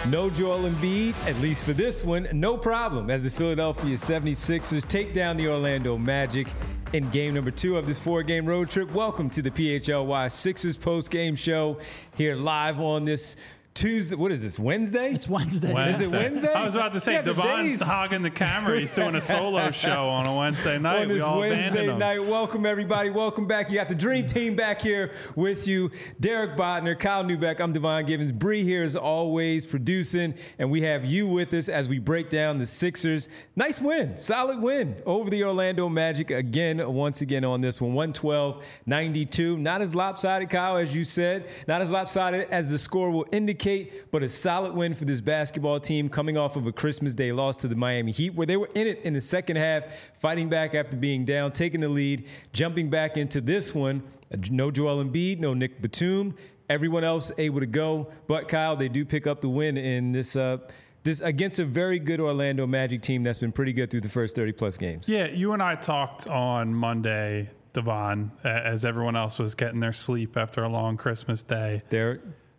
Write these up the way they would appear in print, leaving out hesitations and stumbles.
No Joel Embiid, at least for this one, no problem, as the Philadelphia 76ers take down the Orlando Magic in game number 2 of this 4-game road trip. Welcome to the PHLY Sixers post-game show here live on this Tuesday. What is this, Wednesday? It's Wednesday. Is it Wednesday? I was about to say, Devon's hogging the camera. He's doing a solo show on a Wednesday night. On this Wednesday night. Welcome, everybody. Welcome back. You got the Dream Team back here with you. Derek Bodner, Kyle Newbeck. I'm Devon Givens. Bree here as always producing, and we have you with us as we break down the Sixers. Nice win. Solid win over the Orlando Magic once again on this one. 112-92. Not as lopsided, Kyle, as you said. Not as lopsided as the score will indicate, but a solid win for this basketball team coming off of a Christmas Day loss to the Miami Heat, where they were in it in the second half, fighting back after being down, taking the lead, jumping back into this one. No Joel Embiid, no Nick Batum. Everyone else able to go. But, Kyle, they do pick up the win in this against a very good Orlando Magic team that's been pretty good through the first 30-plus games. Yeah, you and I talked on Monday, Devon, as everyone else was getting their sleep after a long Christmas day. Derek?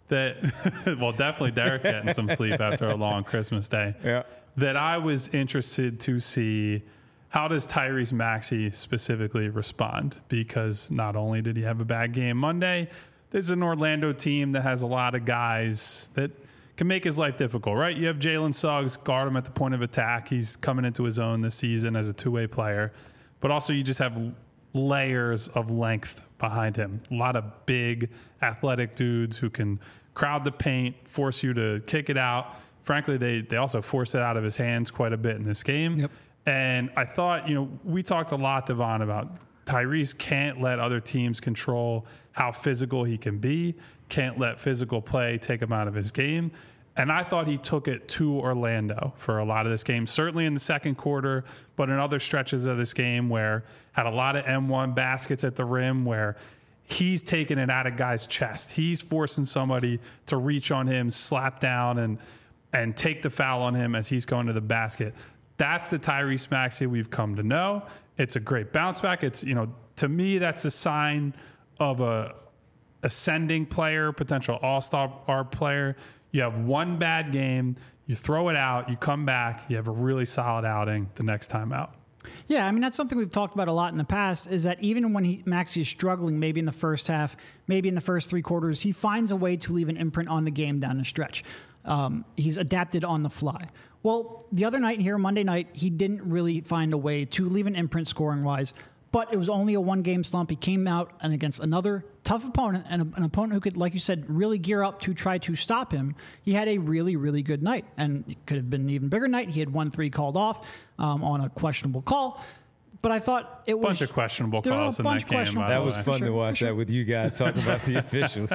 Well, definitely Derek getting some sleep after a long Christmas day. Yeah. That I was interested to see how does Tyrese Maxey specifically respond, because not only did he have a bad game Monday, there's an Orlando team that has a lot of guys that can make his life difficult, right? You have Jalen Suggs, guard him at the point of attack. He's coming into his own this season as a two-way player. But also you just have layers of length behind him. A lot of big athletic dudes who can crowd the paint, force you to kick it out. Frankly, they also force it out of his hands quite a bit in this game. Yep. And I thought, we talked a lot, Devon, about Tyrese can't let other teams control how physical he can be, can't let physical play take him out of his game. And I thought he took it to Orlando for a lot of this game, certainly in the second quarter, but in other stretches of this game where had a lot of M1 baskets at the rim where he's taking it out of guys' chest. He's forcing somebody to reach on him, slap down, and take the foul on him as he's going to the basket. That's the Tyrese Maxey we've come to know. It's a great bounce back. It's, to me, that's a sign of a ascending player, potential all-star player. You have one bad game, you throw it out, you come back, you have a really solid outing the next time out. Yeah, I mean, that's something we've talked about a lot in the past, is that even when Maxey is struggling, maybe in the first half, maybe in the first three quarters, he finds a way to leave an imprint on the game down the stretch. He's adapted on the fly. Well, the other night here, Monday night, he didn't really find a way to leave an imprint scoring-wise, but it was only a one-game slump. He came out and against another tough opponent, and an opponent who could, like you said, really gear up to try to stop him. He had a really, really good night, and it could have been an even bigger night. He had 1-3 called off on a questionable call. But I thought it was... Bunch of questionable calls in that game, by That the was way. fun to watch that with you guys talking about the officials.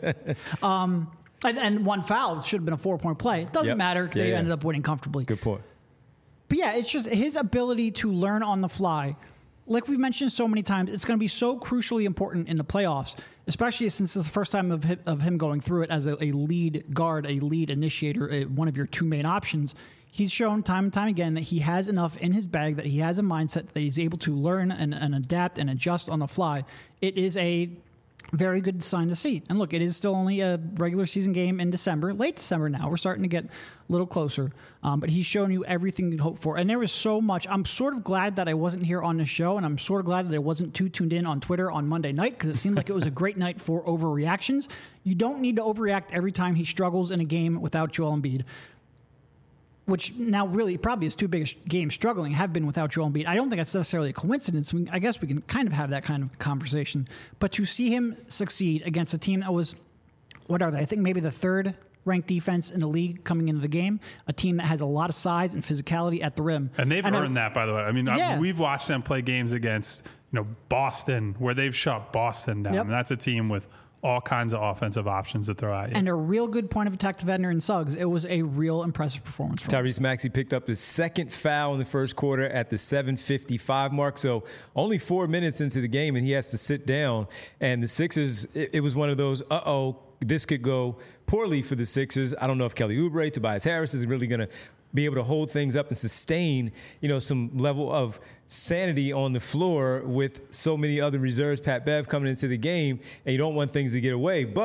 And one foul should have been a 4-point play. It doesn't matter. They ended up winning comfortably. Good point. But yeah, it's just his ability to learn on the fly. Like we've mentioned so many times, it's going to be so crucially important in the playoffs, especially since it's the first time of him going through it as a lead guard, a lead initiator, one of your two main options. He's shown time and time again that he has enough in his bag, that he has a mindset that he's able to learn and adapt and adjust on the fly. It is a very good sign to see. And look, it is still only a regular season game in December, late December now. We're starting to get a little closer. But he's shown you everything you'd hope for. And there was so much. I'm sort of glad that I wasn't here on the show, and I'm sort of glad that I wasn't too tuned in on Twitter on Monday night, because it seemed like it was a great night for overreactions. You don't need to overreact every time he struggles in a game without Joel Embiid, which now really probably his two biggest games struggling have been without Joel Embiid. I don't think that's necessarily a coincidence. I guess we can kind of have that kind of conversation. But to see him succeed against a team that was, what are they? I think maybe the third ranked defense in the league coming into the game, a team that has a lot of size and physicality at the rim. And they've earned that, by the way. I mean, we've watched them play games against, Boston, where they've shut Boston down. Yep. And that's a team with all kinds of offensive options to throw at you. And a real good point of attack to Vedner and Suggs. It was a real impressive performance for him. Tyrese Maxey picked up his second foul in the first quarter at the 7:55 mark. So only 4 minutes into the game, and he has to sit down. And the Sixers, it was one of those, this could go poorly for the Sixers. I don't know if Kelly Oubre, Tobias Harris is really going to be able to hold things up and sustain, some level of sanity on the floor with so many other reserves, Pat Bev coming into the game, and you don't want things to get away. But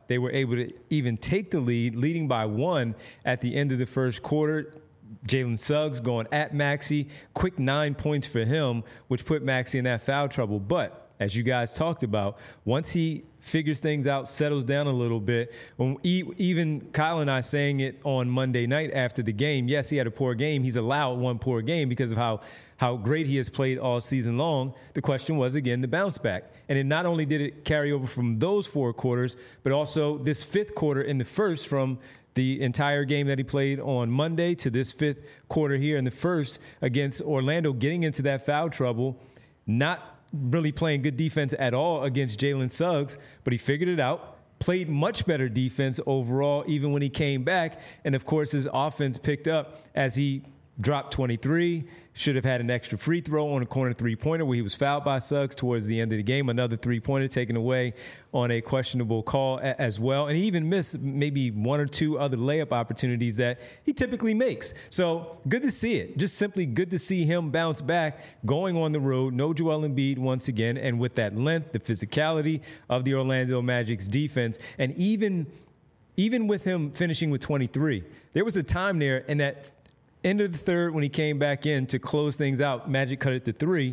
they were able to even take the lead, leading by 1 at the end of the first quarter. Jalen Suggs going at Maxey, quick 9 points for him, which put Maxey in that foul trouble. But as you guys talked about, once he figures things out, settles down a little bit, when even Kyle and I saying it on Monday night after the game, yes, he had a poor game. He's allowed one poor game because of how great he has played all season long. The question was, again, the bounce back. And it not only did it carry over from those 4 quarters, but also this 5th quarter in the first, from the entire game that he played on Monday to this 5th quarter here in the first against Orlando, getting into that foul trouble, not really playing good defense at all against Jalen Suggs, but he figured it out, played much better defense overall even when he came back. And, of course, his offense picked up as he dropped 23, should have had an extra free throw on a corner three-pointer where he was fouled by Suggs towards the end of the game. Another three-pointer taken away on a questionable call as well. And he even missed maybe 1 or 2 other layup opportunities that he typically makes. So good to see it. Just simply good to see him bounce back, going on the road. No Joel Embiid once again. And with that length, the physicality of the Orlando Magic's defense, and even with him finishing with 23, there was a time there in that end of the third when he came back in to close things out. Magic cut it to 3.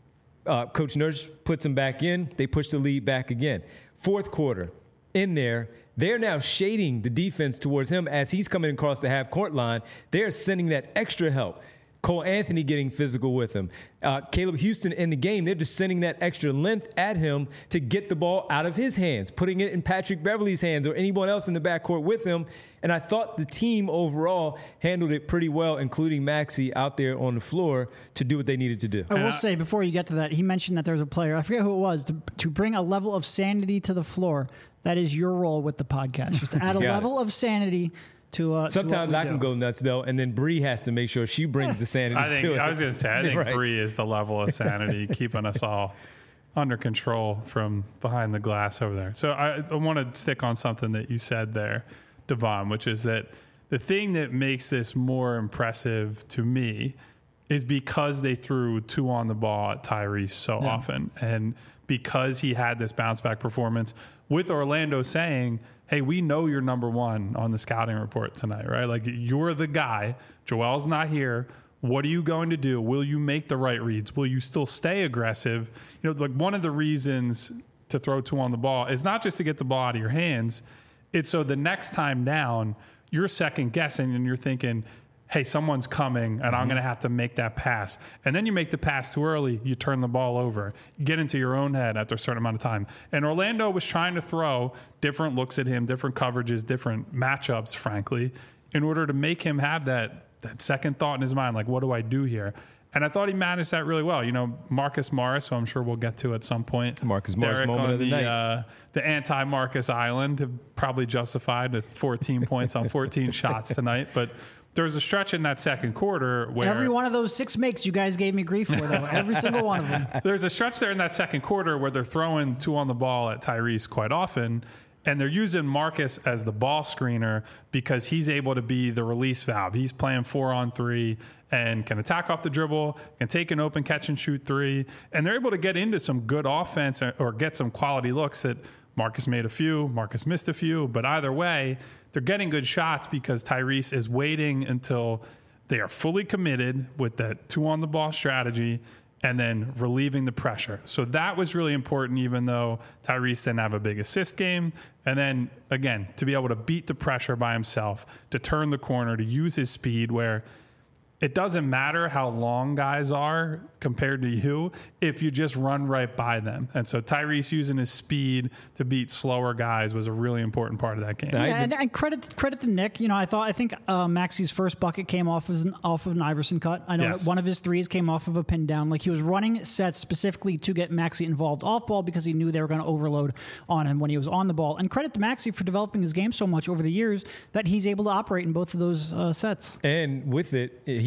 Coach Nurse puts him back in. They push the lead back again. 4th quarter, in there, they're now shading the defense towards him as he's coming across the half-court line. They're sending that extra help. Cole Anthony getting physical with him. Caleb Houston in the game, they're just sending that extra length at him to get the ball out of his hands, putting it in Patrick Beverley's hands or anyone else in the backcourt with him. And I thought the team overall handled it pretty well, including Maxey out there on the floor to do what they needed to do. I will say, before you get to that, he mentioned that there was a player, I forget who it was, to bring a level of sanity to the floor. That is your role with the podcast, just to add a level of sanity to sometimes I can go nuts though, and then Bree has to make sure she brings the sanity to it. I was going to say, I think Right. Bree is the level of sanity keeping us all under control from behind the glass over there. So I want to stick on something that you said there, Devon, which is that the thing that makes this more impressive to me is because they threw 2 on the ball at Tyrese so often, and because he had this bounce back performance with Orlando saying, hey, we know you're number 1 on the scouting report tonight, right? Like, you're the guy. Joel's not here. What are you going to do? Will you make the right reads? Will you still stay aggressive? You know, like, one of the reasons to throw 2 on the ball is not just to get the ball out of your hands. It's so the next time down, you're second guessing and you're thinking, hey, someone's coming and I'm going to have to make that pass. And then you make the pass too early, you turn the ball over. You get into your own head after a certain amount of time. And Orlando was trying to throw different looks at him, different coverages, different matchups, frankly, in order to make him have that second thought in his mind, like, what do I do here? And I thought he managed that really well. You know, Marcus Morris, who I'm sure we'll get to at some point. Marcus Morris Derek moment on of the night. The anti-Marcus Island have probably justified with 14 points on 14 shots tonight. But there was a stretch in that second quarter where every one of those 6 makes you guys gave me grief for, though. Every single one of them. There's a stretch there in that second quarter where they're throwing 2 on the ball at Tyrese quite often. And they're using Marcus as the ball screener because he's able to be the release valve. He's playing 4-on-3 and can attack off the dribble, can take an open catch and shoot 3. And they're able to get into some good offense or get some quality looks that Marcus made a few, Marcus missed a few. But either way, they're getting good shots because Tyrese is waiting until they are fully committed with that 2 on the ball strategy and then relieving the pressure. So that was really important, even though Tyrese didn't have a big assist game. And then, again, to be able to beat the pressure by himself, to turn the corner, to use his speed where it doesn't matter how long guys are compared to you if you just run right by them. And so Tyrese using his speed to beat slower guys was a really important part of that game. Yeah, and credit to Nick. You know, I think Maxey's first bucket came off of an Iverson cut. I know one of his threes came off of a pin down. Like, he was running sets specifically to get Maxey involved off ball because he knew they were going to overload on him when he was on the ball. And credit to Maxey for developing his game so much over the years that he's able to operate in both of those sets. And with it, he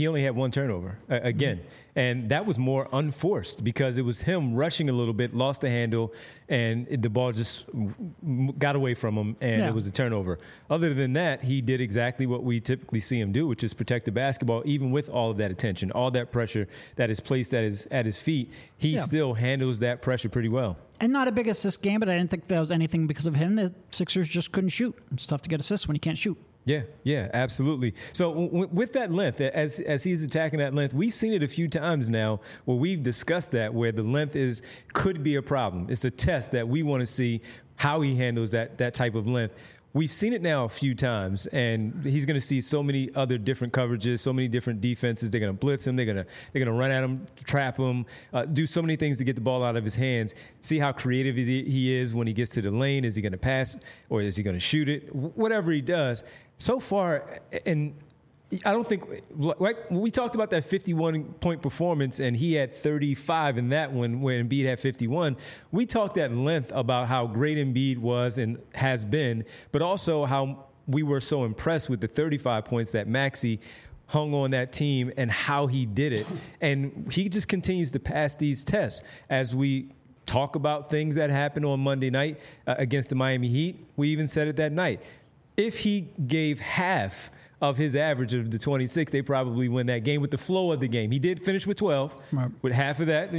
he only had one turnover again. And that was more unforced because it was him rushing a little bit, lost the handle, and the ball just got away from him, and it was a turnover. Other than that, he did exactly what we typically see him do, which is protect the basketball, even with all of that attention, all that pressure that is placed at his feet. He still handles that pressure pretty well. And not a big assist game, but I didn't think that was anything because of him. The Sixers just couldn't shoot. It's tough to get assists when you can't shoot. Yeah, absolutely. So with that length, as he's attacking that length, we've seen it a few times now where we've discussed that, where the length could be a problem. It's a test that we want to see how he handles that type of length. We've seen it now a few times, and he's going to see so many other different coverages, so many different defenses. They're going to blitz him. They're going to run at him, trap him, do so many things to get the ball out of his hands. See how creative he is when he gets to the lane. Is he going to pass or is he going to shoot it? Whatever he does. So far, and I don't think, like we talked about that 51-point performance, and he had 35 in that one when Embiid had 51. We talked at length about how great Embiid was and has been, but also how we were so impressed with the 35 points that Maxey hung on that team and how he did it. And he just continues to pass these tests as we talk about things that happened on Monday night against the Miami Heat. We even said it that night. If he gave half of his average of the 26, they probably win that game with the flow of the game. He did finish with 12, right, with half of that,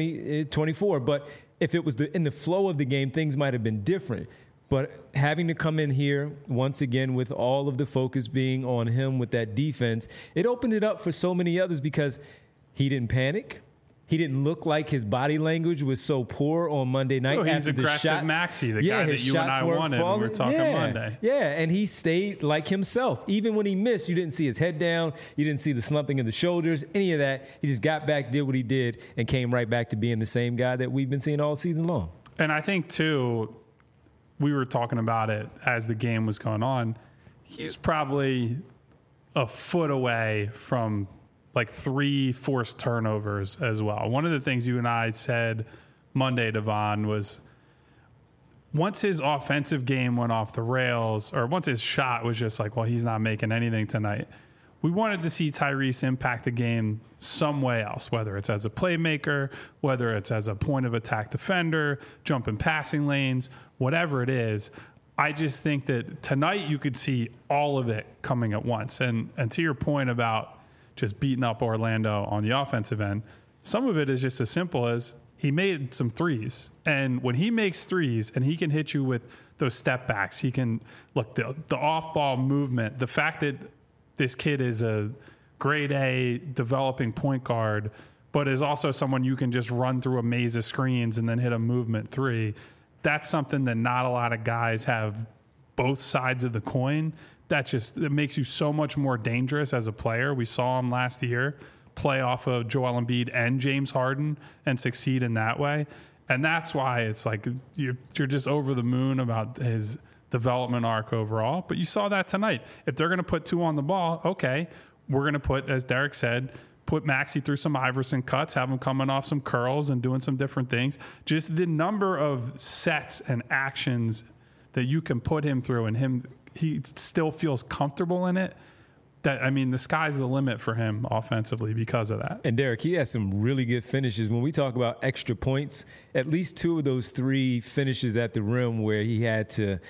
24. But if it was in the flow of the game, things might have been different. But having to come in here once again with all of the focus being on him with that defense, it opened it up for so many others because he didn't panic. He didn't look like his body language was so poor on Monday night. He's aggressive Maxey, the guy that you and I wanted when we were talking Monday. Yeah, and he stayed like himself. Even when he missed, you didn't see his head down. You didn't see the slumping of the shoulders, any of that. He just got back, did what he did, and came right back to being the same guy that we've been seeing all season long. And I think, too, we were talking about it as the game was going on. He's probably a foot away from like 3 forced turnovers as well. One of the things you and I said Monday, Devon, was once his offensive game went off the rails, or once his shot was just like, well, he's not making anything tonight, we wanted to see Tyrese impact the game some way else, whether it's as a playmaker, whether it's as a point of attack defender, jumping passing lanes, whatever it is. I just think that tonight you could see all of it coming at once. And to your point about just beating up Orlando on the offensive end, some of it is just as simple as he made some threes. And when he makes threes and he can hit you with those step backs, he can look the off-ball movement, the fact that this kid is a grade A developing point guard, but is also someone you can just run through a maze of screens and then hit a movement three. That's something that not a lot of guys have both sides of the coin. It makes you so much more dangerous as a player. We saw him last year play off of Joel Embiid and James Harden and succeed in that way. And that's why it's like you're just over the moon about his development arc overall. But you saw that tonight. If they're going to put 2 on the ball, okay, we're going to put, as Derek said, put Maxey through some Iverson cuts, have him coming off some curls and doing some different things. Just the number of sets and actions that you can put him through, and he still feels comfortable in it. The sky's the limit for him offensively because of that. And Derek, he has some really good finishes. When we talk about extra points, at least 2 of those 3 finishes at the rim where he had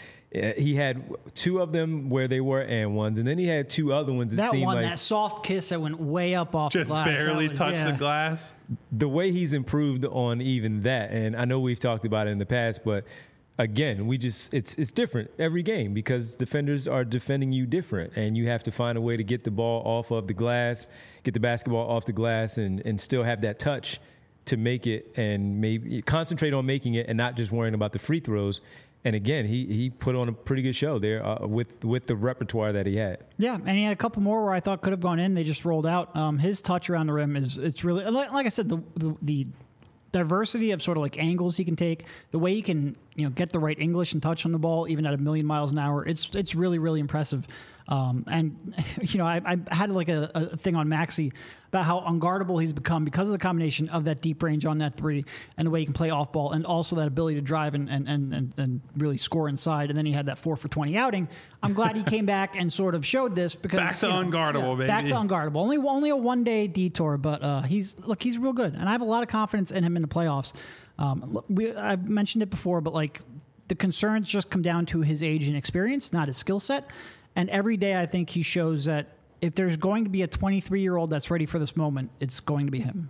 2 of them where they were and ones, and then he had 2 other ones. That soft kiss that went way up off the glass. Just barely touched the glass. The way he's improved on even that, and I know we've talked about it in the past, but again, it's different every game because defenders are defending you different, and you have to find a way to get the ball off of the glass, get the basketball off the glass, and still have that touch to make it, and maybe concentrate on making it and not just worrying about the free throws. And again, he put on a pretty good show there with the repertoire that he had. Yeah, and he had a couple more where I thought could have gone in. They just rolled out. His touch around the rim it's really, like I said, the diversity of sort of like angles he can take, the way he can get the right English and touch on the ball even at 1,000,000 miles an hour. It's really, really impressive. And I had like a thing on Maxey about how unguardable he's become because of the combination of that deep range on that three and the way he can play off ball, and also that ability to drive and really score inside. And then he had that 4 for 20 outing. I'm glad he came back and sort of showed this because back to unguardable, baby. Back to unguardable. Only a 1 day detour, but he's real good, and I have a lot of confidence in him in the playoffs. I've mentioned it before, but like the concerns just come down to his age and experience, not his skill set. And every day I think he shows that if there's going to be a 23-year-old that's ready for this moment, it's going to be him.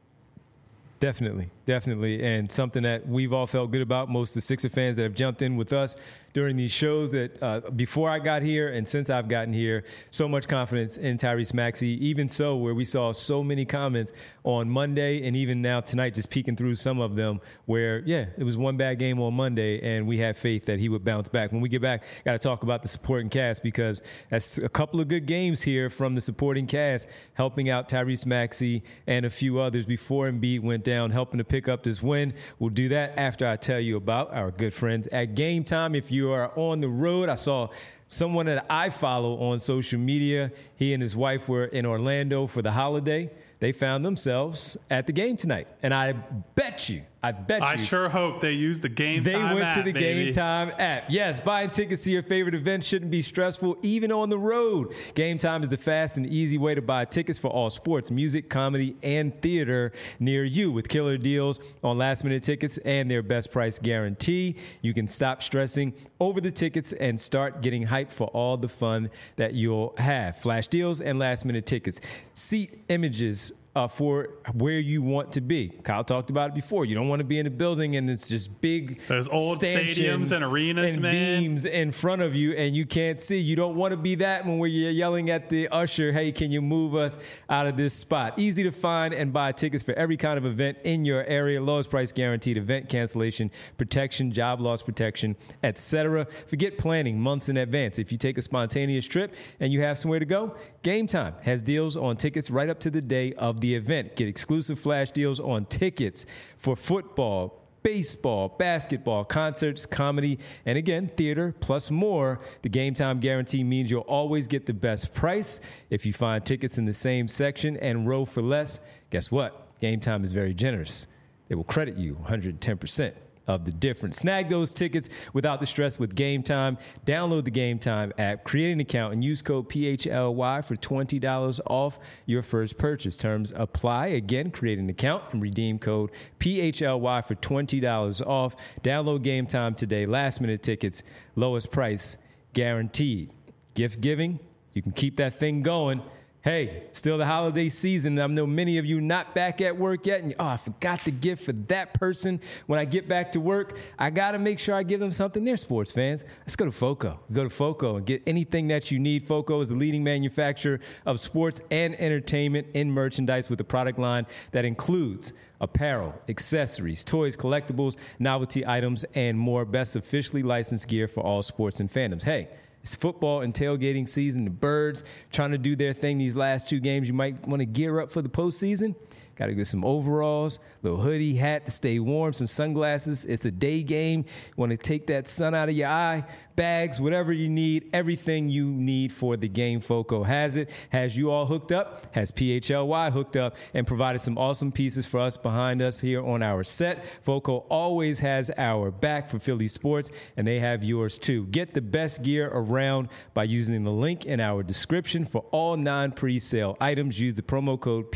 Definitely. And something that we've all felt good about, most of the Sixer fans that have jumped in with us during these shows that before I got here and since I've gotten here, so much confidence in Tyrese Maxey. Even so, where we saw so many comments on Monday and even now tonight, just peeking through some of them where, it was one bad game on Monday and we had faith that he would bounce back. When we get back, got to talk about the supporting cast because that's a couple of good games here from the supporting cast, helping out Tyrese Maxey and a few others before Embiid went down, helping to pick up this win. We'll do that after I tell you about our good friends at Game Time. If you are on the road, I saw someone that I follow on social media. He and his wife were in Orlando for the holiday. They found themselves at the game tonight. And I bet you. I sure hope they use the Game Time app. They went to the baby. Game Time app. Yes, buying tickets to your favorite events shouldn't be stressful, even on the road. Game Time is the fast and easy way to buy tickets for all sports, music, comedy, and theater near you. With killer deals on last-minute tickets and their best price guarantee, you can stop stressing over the tickets and start getting hyped for all the fun that you'll have. Flash deals and last-minute tickets. Seat images for where you want to be. Kyle talked about it before. You don't want to be in a building and it's just big. There's old stadiums and arenas, and man. beams in front of you and you can't see. You don't want to be that when you're yelling at the usher, hey, can you move us out of this spot? Easy to find and buy tickets for every kind of event in your area. Lowest price guaranteed, event cancellation protection, job loss protection, etc. Forget planning months in advance. If you take a spontaneous trip and you have somewhere to go, Game Time has deals on tickets right up to the day of the event. Get exclusive flash deals on tickets for football, baseball, basketball, concerts, comedy, and again, theater, plus more. The Game Time guarantee means you'll always get the best price. If you find tickets in the same section and row for less, guess what? Game Time is very generous. They will credit you 110% of the difference. Snag those tickets without the stress with Game Time. Download the Game Time app, create an account, and use code PHLY for $20 off your first purchase. Terms apply. Again, create an account and redeem code PHLY for $20 off. Download Game Time today. Last minute tickets, lowest price guaranteed. Gift giving, you can keep that thing going. Hey, still the holiday season. I know many of you not back at work yet. And I forgot the gift for that person. When I get back to work, I got to make sure I give them something. They're sports fans. Let's go to FOCO. Go to FOCO and get anything that you need. FOCO is the leading manufacturer of sports and entertainment in merchandise with a product line that includes apparel, accessories, toys, collectibles, novelty items, and more. Best officially licensed gear for all sports and fandoms. Hey, it's football and tailgating season. The Birds trying to do their thing these last two games. You might want to gear up for the postseason. Got to get some overalls, little hoodie, hat to stay warm, some sunglasses. It's a day game. You want to take that sun out of your eye, bags, whatever you need, everything you need for the game. FOCO has it. Has you all hooked up, has PHLY hooked up, and provided some awesome pieces for us behind us here on our set. FOCO always has our back for Philly sports, and they have yours too. Get the best gear around by using the link in our description for all non-presale items. Use the promo code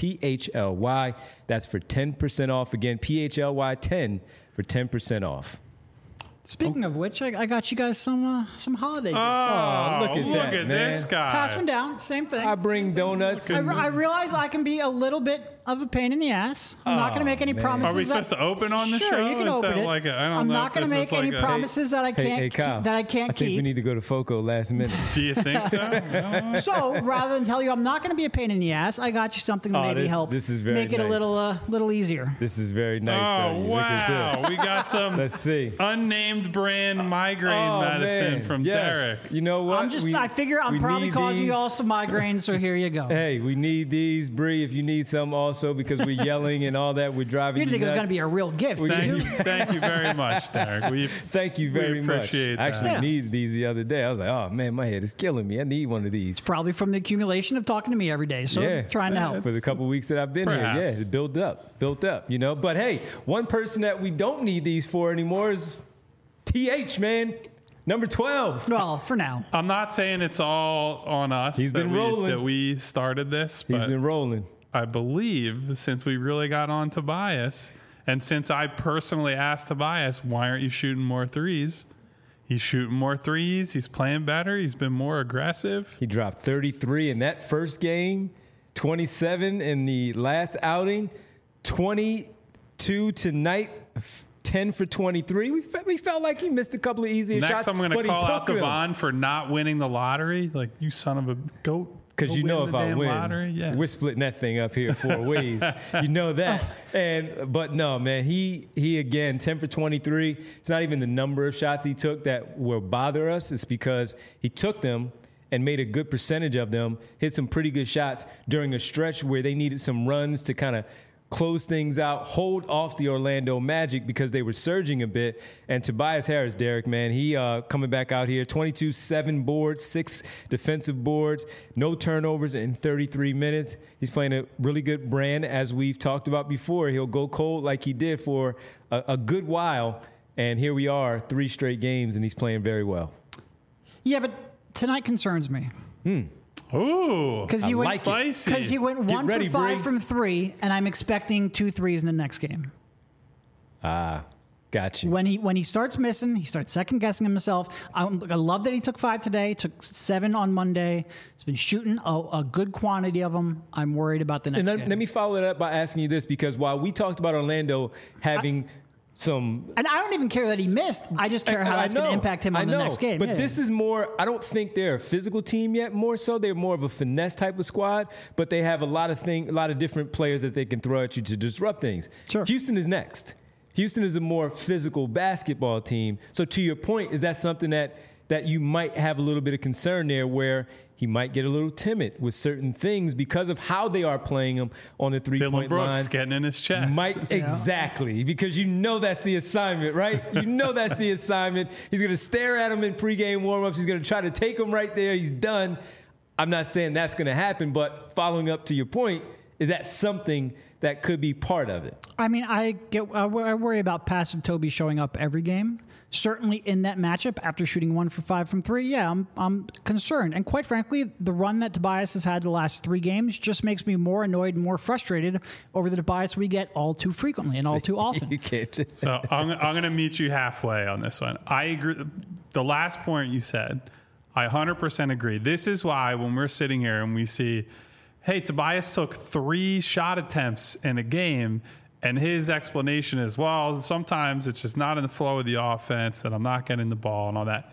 PHLY. That's for 10% off. Again, PHLY10 for 10% off. Speaking of which, I got you guys some holiday gifts. Look at this guy. Pass one down. Same thing. I bring donuts. I realize I can be a little bit of a pain in the ass. I'm not going to make any promises. Are we supposed to open on the show? Sure, you can open it. I'm not going to make any promises that I can't Kyle, that I can't I think we need to go to FOCO last minute. Do you think so? So rather than tell you I'm not going to be a pain in the ass, I got you something to maybe help this is very make it a little easier. This is very nice. Oh, wow. Look at this. We got some Let's see. unnamed brand migraine medicine from yes. Derek. You know what? I figure I'm probably causing you all some migraines, so here you go. Hey, we need these. Bree, if you need some also. also because we're yelling and all that. We're driving You didn't think it was nuts. going to be a real gift, did you? Thank you very much, Derek. Thank you very much. appreciate I actually that. needed these the other day. I was like, oh man, my head is killing me. I need one of these. Probably from the accumulation of talking to me every day. So trying to help. For the couple weeks that I've been Perhaps. here. Yeah, it built up, you know. But hey, one person that we don't need these for anymore is TH, man. Number 12. Well, for now. I'm not saying it's all on us. He's been rolling. That we started this, He's but been rolling. I believe since we really got on Tobias, and since I personally asked Tobias, why aren't you shooting more threes? He's shooting more threes. He's playing better. He's been more aggressive. He dropped 33 in that first game, 27 in the last outing, 22 tonight, 10 for 23. We felt like he missed a couple of easier shots. Next, I'm going to but he call out took them. Devon for not winning the lottery. Like, you son of a goat. Because you know if I win, lottery. Yeah. we're splitting that thing up here 4 ways. You know that. But no, man, he again, 10 for 23. It's not even the number of shots he took that will bother us. It's because he took them and made a good percentage of them, hit some pretty good shots during a stretch where they needed some runs to kind of close things out, hold off the Orlando Magic because they were surging a bit. And Tobias Harris, Derek, man, he coming back out here, 22, 7 boards, 6 defensive boards, no turnovers in 33 minutes. He's playing a really good brand, as we've talked about before. He'll go cold like he did for a good while. And here we are, 3 straight games, and he's playing very well. Yeah, but tonight concerns me. Ooh, Because he, like it. spicy. Because he went Get 1 ready, for 5 Bree. from 3, and I'm expecting 2 threes in the next game. Got you. When he starts missing, he starts second guessing himself. I love that he took 5 today, took 7 on Monday. He's been shooting a good quantity of them. I'm worried about the next And game. let me follow it up by asking you this, because while we talked about Orlando having some... And I don't even care that he missed. I just care how that's going to impact him on the next game. But Yeah. this is more, I don't think they're a physical team yet, more so. They're more of a finesse type of squad, but they have a lot of different players that they can throw at you to disrupt things. Sure. Houston is next. Houston is a more physical basketball team. So to your point, is that something that you might have a little bit of concern there, where he might get a little timid with certain things because of how they are playing him on the Dylan three-point Brooks line? getting in his chest. Exactly, because you know that's the assignment, right? You know that's the assignment. He's going to stare at him in pregame warmups. He's going to try to take him right there. He's done. I'm not saying that's going to happen, but following up to your point, is that something that could be part of it? I mean, I worry about passive Toby showing up every game. Certainly in that matchup, after shooting 1 for 5 from 3, yeah, I'm concerned. And quite frankly, the run that Tobias has had the last 3 games just makes me more annoyed and more frustrated over the Tobias we get all too frequently and all too often. You can't just So I'm going to meet you halfway on this one. I agree. The last point you said, I 100% agree. This is why when we're sitting here and we see, hey, Tobias took 3 shot attempts in a game, and his explanation is, well, sometimes it's just not in the flow of the offense, that I'm not getting the ball and all that.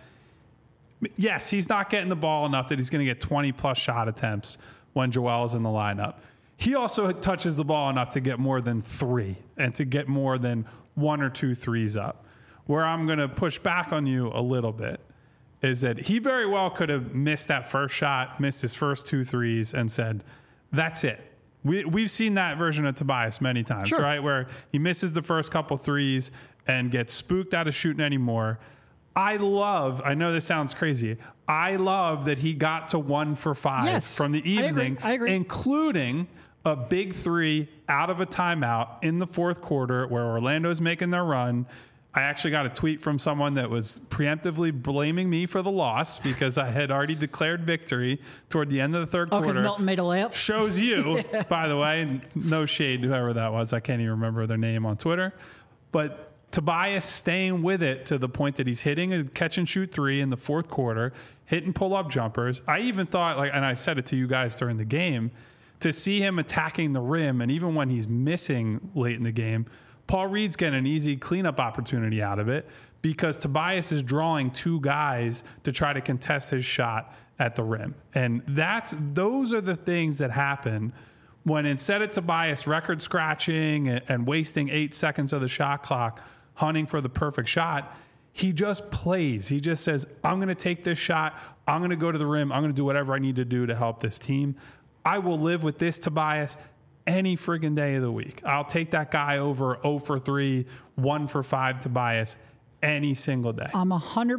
Yes, he's not getting the ball enough that he's going to get 20-plus shot attempts when Joel's in the lineup. He also touches the ball enough to get more than 3 and to get more than 1 or 2 threes up. Where I'm going to push back on you a little bit is that he very well could have missed that first shot, missed his first 2 threes, and said, that's it. We've seen that version of Tobias many times, Sure. right? Where he misses the first couple threes and gets spooked out of shooting anymore. I know this sounds crazy, I love that he got to 1 for 5 Yes, from the evening, I agree. including a big 3 out of a timeout in the fourth quarter where Orlando's making their run. I actually got a tweet from someone that was preemptively blaming me for the loss because I had already declared victory toward the end of the third Oh, because quarter. Milton made a layup? Shows you, by the way, and no shade to whoever that was. I can't even remember their name on Twitter. But Tobias staying with it to the point that he's hitting a catch and shoot 3 in the fourth quarter, hitting pull-up jumpers. I even thought, and I said it to you guys during the game, to see him attacking the rim, and even when he's missing late in the game, Paul Reed's getting an easy cleanup opportunity out of it because Tobias is drawing 2 guys to try to contest his shot at the rim. And those are the things that happen when, instead of Tobias record scratching and wasting 8 seconds of the shot clock hunting for the perfect shot, he just plays. He just says, I'm going to take this shot. I'm going to go to the rim. I'm going to do whatever I need to do to help this team. I will live with this, Tobias. any friggin' day of the week. I'll take that guy over 0 for 3, 1 for 5 Tobias any single day. I'm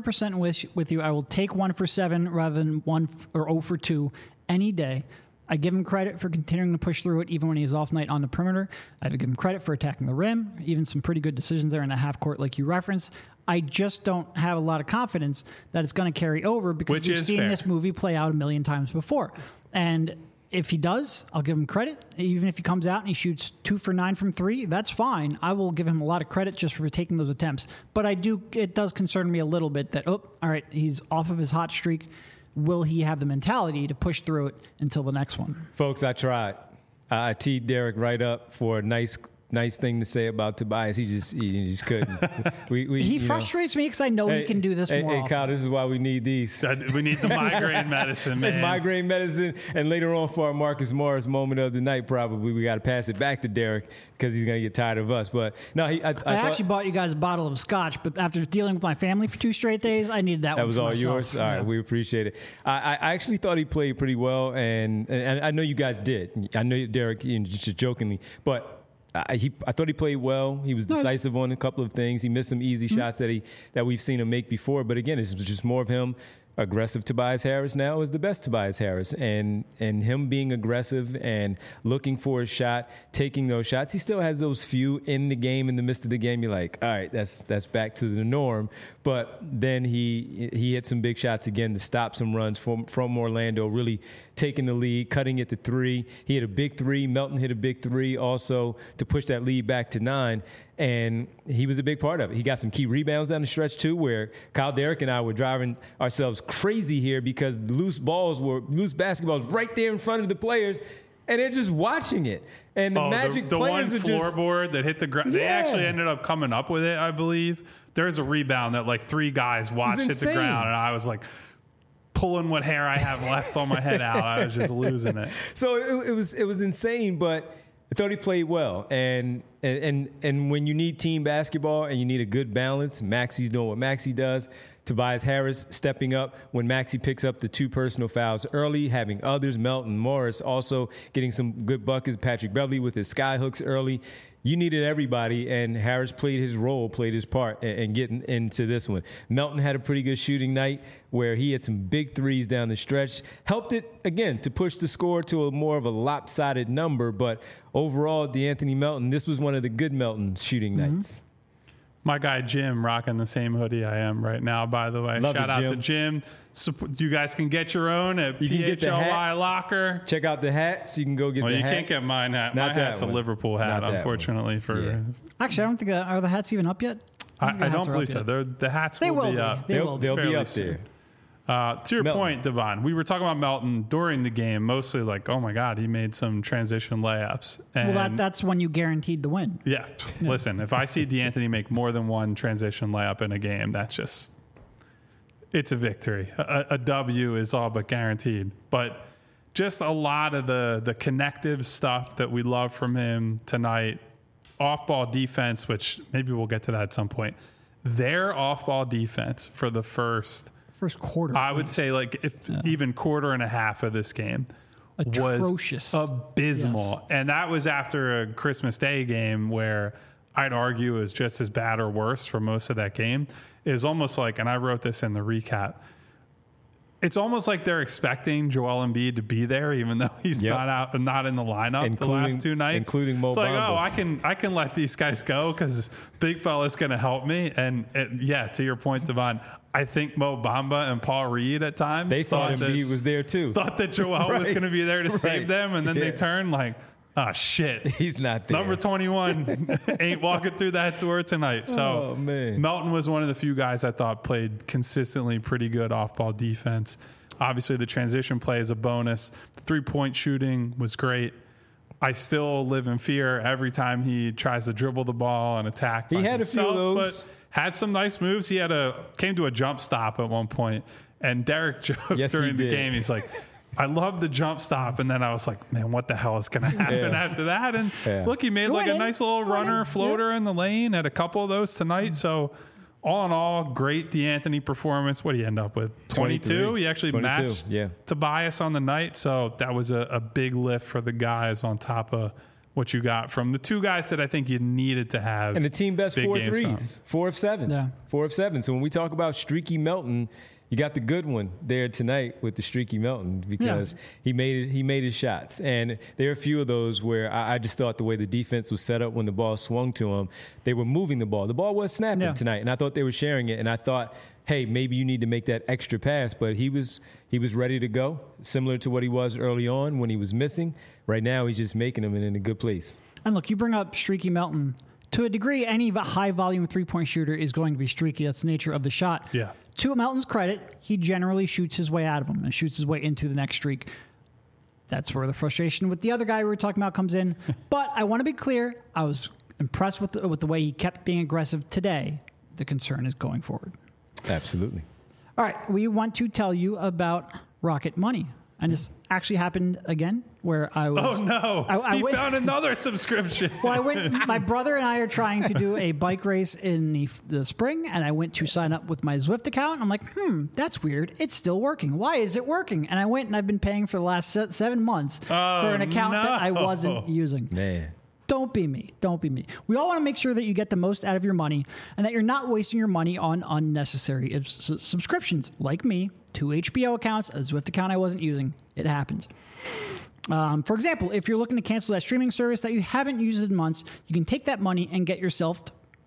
100% with you. I will take 1 for 7 rather than 1 or 0 for 2 any day. I give him credit for continuing to push through it even when he has off night on the perimeter. I give him credit for attacking the rim, even some pretty good decisions there in the half court like you referenced. I just don't have a lot of confidence that it's going to carry over because we've seen this movie play out a million times before. And if he does, I'll give him credit. Even if he comes out and he shoots 2 for 9 from 3, that's fine. I will give him a lot of credit just for taking those attempts. But it does concern me a little bit that, all right, he's off of his hot streak. Will he have the mentality to push through it until the next one? Folks, I tried. I teed Derek right up for a nice thing to say about Tobias. He just couldn't. He frustrates me because I know he can do this more often. Hey, Kyle, this is why we need these. We need the migraine medicine, man. Migraine medicine. And later on for our Marcus Morris moment of the night, probably we got to pass it back to Derek because he's going to get tired of us. But no, I actually bought you guys a bottle of scotch, but after dealing with my family for 2 straight days, I needed that one. That was all myself. yours? All right, we appreciate it. I actually thought he played pretty well, and I know you guys did. I know Derek, just jokingly, but I thought he played well. He was decisive on a couple of things. He missed some easy shots that we've seen him make before. But again, it's just more of him. Aggressive Tobias Harris now is the best Tobias Harris. And him being aggressive and looking for a shot, taking those shots. He still has those few in the game, in the midst of the game. You're like, all right, that's back to the norm. But then he hit some big shots again to stop some runs from Orlando, really taking the lead, cutting it to 3. He hit a big 3. Melton hit a big 3 also to push that lead back to 9. And he was a big part of it. He got some key rebounds down the stretch, too, where Kyle, Derek, and I were driving ourselves crazy here because loose basketballs right there in front of the players, and they're just watching it. And the Magic the players one floorboard that hit the ground, they actually ended up coming up with it, I believe. There's a rebound that like 3 guys watched hit the ground, and I was like pulling what hair I have left on my head out. I was just losing it. So it was insane, but I thought he played well, and when you need team basketball and you need a good balance, Maxi's doing what Maxi does. Tobias Harris stepping up when Maxi picks up the 2 personal fouls early, having others, Melton Morris also getting some good buckets, Patrick Beverly with his sky hooks early. You needed everybody, and Harris played his part in getting into this one. Melton had a pretty good shooting night where he had some big 3s down the stretch. Helped it, again, to push the score to a more of a lopsided number, but overall, DeAnthony Melton, this was one of the good Melton shooting nights. My guy Jim rocking the same hoodie I am right now, by the way. Shout out to Jim. You guys can get your own at PHLY Locker. Check out the hats. You can go get the hats. You can't get mine hat. My hat's a Liverpool hat, unfortunately. Actually, I don't think are the hats even up yet? I don't believe so. The hats will be up. They'll be up there. To your point, Devon, we were talking about Melton during the game, mostly like, oh my God, he made some transition layups. And that's when you guaranteed the win. Yeah. Listen, if I see DeAnthony make more than one transition layup in a game, it's a victory. A W is all but guaranteed. But just a lot of the connective stuff that we love from him tonight, off-ball defense, which maybe we'll get to that at some point. Their off-ball defense for the first quarter, I would say, even quarter and a half of this game atrocious, was abysmal. Yes. And that was after a Christmas Day game where I'd argue is just as bad or worse for most of that game. It was almost like, and I wrote this in the recap, it's almost like they're expecting Joel Embiid to be there, even though he's not in the lineup the last 2 nights. Including Mo Bamba. It's like, I can let these guys go because Big Fella's going to help me. And to your point, Devon, I think Mo Bamba and Paul Reed at times thought Embiid was there too. Thought that Joel was going to be there to save them, and then they turn like, oh, shit. He's not there. Number 21 ain't walking through that door tonight. So Melton was one of the few guys I thought played consistently pretty good off-ball defense. Obviously, the transition play is a bonus. The three-point shooting was great. I still live in fear every time he tries to dribble the ball and attack. He had a few of those. But had some nice moves. He came to a jump stop at one point, and Derek joked during the game. He's like, I love the jump stop. And then I was like, man, what the hell is going to happen after that? And look, he made like a nice little runner floater in the lane, had a couple of those tonight. So all in all, great DeAnthony performance. What did he end up with? 22? He actually matched Tobias on the night. So that was a big lift for the guys on top of what you got from the two guys that I think you needed to have. And the team best big 4 games threes, 4 of 7. Yeah. 4 of 7. So when we talk about Streaky Melton, you got the good one there tonight with the Streaky Melton because he made his shots. And there are a few of those where I just thought the way the defense was set up when the ball swung to him, they were moving the ball. The ball was snapping tonight, and I thought they were sharing it. And I thought, hey, maybe you need to make that extra pass. But he was ready to go, similar to what he was early on when he was missing. Right now, he's just making them and in a good place. And look, you bring up Streaky Melton. To a degree, any high-volume three-point shooter is going to be streaky. That's the nature of the shot. Yeah. To Melton's credit, he generally shoots his way out of them and shoots his way into the next streak. That's where the frustration with the other guy we were talking about comes in. But I want to be clear. I was impressed with the way he kept being aggressive today. The concern is going forward. Absolutely. All right. We want to tell you about Rocket Money. And this actually happened again where I was... Oh, no. He found another subscription. Well, my brother and I are trying to do a bike race in the spring, and I went to sign up with my Zwift account. I'm like, that's weird. It's still working. Why is it working? And I went, and I've been paying for the last 7 months for an account that I wasn't using. Man. Don't be me. Don't be me. We all want to make sure that you get the most out of your money and that you're not wasting your money on unnecessary subscriptions. Like me, 2 HBO accounts, a Zwift account I wasn't using. It happens. For example, if you're looking to cancel that streaming service that you haven't used in months, you can take that money and get yourself